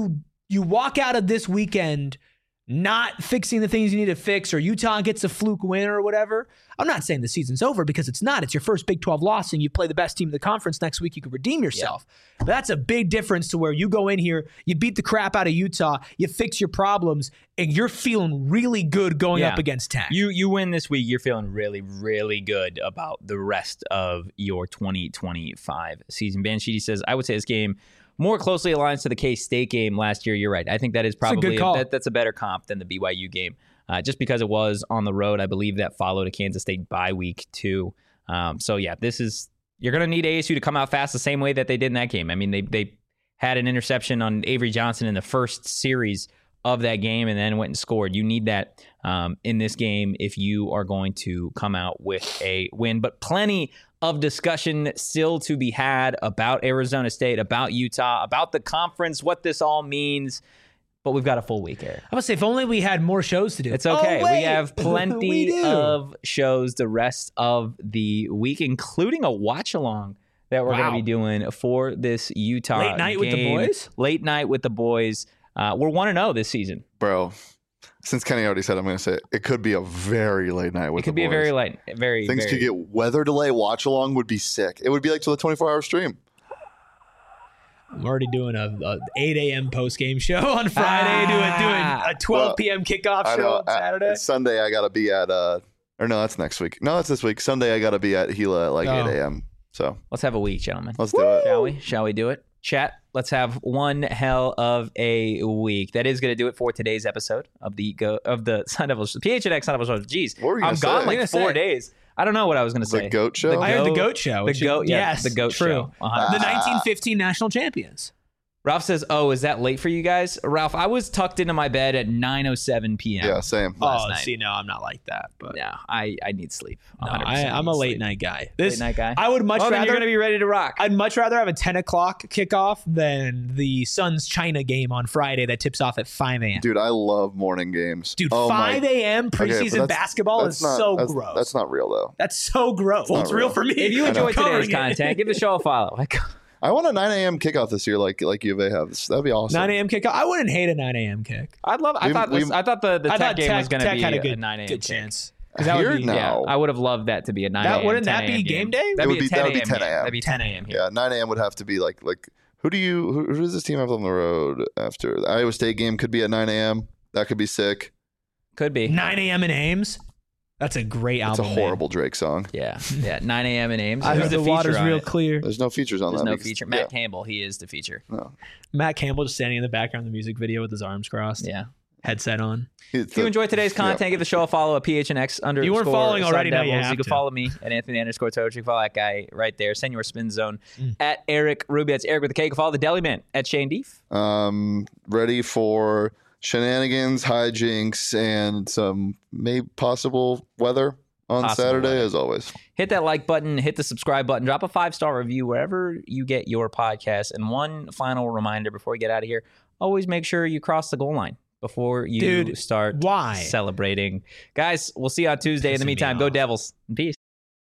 [SPEAKER 1] walk out of this weekend not fixing the things you need to fix, or Utah gets a fluke win or whatever. I'm not saying the season's over, because it's not. It's your first Big 12 loss and you play the best team in the conference next week. You can redeem yourself. Yeah. But that's a big difference to where you go in here, you beat the crap out of Utah, you fix your problems, and you're feeling really good going up against Tech.
[SPEAKER 2] You win this week, you're feeling really, really good about the rest of your 2025 season. Banshee says, I would say this game more closely aligns to the K-State game last year. You're right. I think that is probably that's a better comp than the BYU game, just because it was on the road. I believe that followed a Kansas State bye week too. So yeah, you're going to need ASU to come out fast the same way that they did in that game. I mean, they had an interception on Avery Johnson in the first series of that game and then went and scored. You need that in this game if you are going to come out with a win. But plenty of discussion still to be had about Arizona State, about Utah, about the conference, what this all means. But we've got a full week here.
[SPEAKER 1] I would say if only we had more shows to do.
[SPEAKER 2] It's okay. We have plenty of shows the rest of the week, including a watch-along that we're going to be doing for this Utah
[SPEAKER 1] Late night
[SPEAKER 2] game.
[SPEAKER 1] With the boys?
[SPEAKER 2] Late night with the boys. We're 1-0 this season.
[SPEAKER 3] Bro, since Kenny already said, I'm going to say it could be a very late night with the boys. It could
[SPEAKER 2] be a very late.
[SPEAKER 3] Things could get weather delay. Watch-along would be sick. It would be like to the 24-hour stream.
[SPEAKER 1] I'm already doing a 8 a.m. post-game show on Friday, doing a 12 p.m. kickoff show on Saturday.
[SPEAKER 3] Sunday, I got to be at, or no, that's next week. No, that's this week. Sunday, I got to be at Gila at like 8 a.m. So
[SPEAKER 2] let's have a week, gentlemen.
[SPEAKER 3] Let's do it.
[SPEAKER 2] Shall we do it? Chat, let's have one hell of a week. That is going to do it for today's episode of the Sun Devils, PHNX Sun Devils show. Jeez, I'm gone like 4 days. I don't know what I was going to say.
[SPEAKER 3] The GOAT show?
[SPEAKER 1] I heard the GOAT show.
[SPEAKER 2] The GOAT, yes. The GOAT show.
[SPEAKER 1] The 1915 national champions.
[SPEAKER 2] Ralph says, "Oh, is that late for you guys?" Ralph, I was tucked into my bed at 9:07 p.m.
[SPEAKER 3] Yeah, same.
[SPEAKER 1] Last night. See, no, I'm not like that. But
[SPEAKER 2] yeah, I need sleep.
[SPEAKER 1] No, I'm a late night guy.
[SPEAKER 2] Late night guy.
[SPEAKER 1] I would much rather.
[SPEAKER 2] Then you're gonna be ready to rock.
[SPEAKER 1] I'd much rather have a 10 o'clock kickoff than the Suns China game on Friday that tips off at 5 a.m.
[SPEAKER 3] Dude, I love morning games.
[SPEAKER 1] Dude, 5 a.m. preseason basketball is so gross.
[SPEAKER 3] That's not real though.
[SPEAKER 1] That's so gross. Well, it's real for me.
[SPEAKER 2] If you enjoyed today's content, give the show a follow.
[SPEAKER 3] I want a 9 a.m. kickoff this year, like U of A has. That'd be awesome.
[SPEAKER 1] 9 a.m. kickoff. I wouldn't hate a 9 a.m. kick.
[SPEAKER 2] I thought the Tech game was going to be a 9 a.m.
[SPEAKER 1] good chance.
[SPEAKER 3] That would be,
[SPEAKER 2] yeah, I would have loved that to be a 9 a.m.
[SPEAKER 1] Wouldn't that be game day?
[SPEAKER 3] That would be 10 a.m.
[SPEAKER 2] That'd be 10 a.m. here.
[SPEAKER 3] Yeah, 9 a.m. would have to be like who does this team have on the road after the Iowa State game? Could be at 9 a.m. That could be sick.
[SPEAKER 2] Could be
[SPEAKER 1] 9 a.m. in Ames. That's a great album.
[SPEAKER 3] It's a horrible Drake song.
[SPEAKER 2] Yeah. 9 a.m. in Ames.
[SPEAKER 1] I heard the water's real clear.
[SPEAKER 3] There's no features on that.
[SPEAKER 2] There's no feature. Matt Campbell, he is the feature.
[SPEAKER 3] No.
[SPEAKER 1] Matt Campbell just standing in the background of the music video with his arms crossed.
[SPEAKER 2] Yeah.
[SPEAKER 1] Headset on.
[SPEAKER 2] If you enjoyed today's content, give the show a follow at PHNX_.
[SPEAKER 1] You weren't following already, now
[SPEAKER 2] you can follow me at Anthony_Toach. You can follow that guy right there. Send your spin zone at Eric Rubio. It's Eric with a K. You can follow the Deli Man at Shane Deef.
[SPEAKER 3] Ready for shenanigans, hijinks, and some maybe possible weather on Saturday, as always.
[SPEAKER 2] Hit that like button, hit the subscribe button, drop a 5-star review wherever you get your podcast. And one final reminder before we get out of here, always make sure you cross the goal line before you start celebrating. Guys, we'll see you on Tuesday. In the meantime, go Devils. Peace.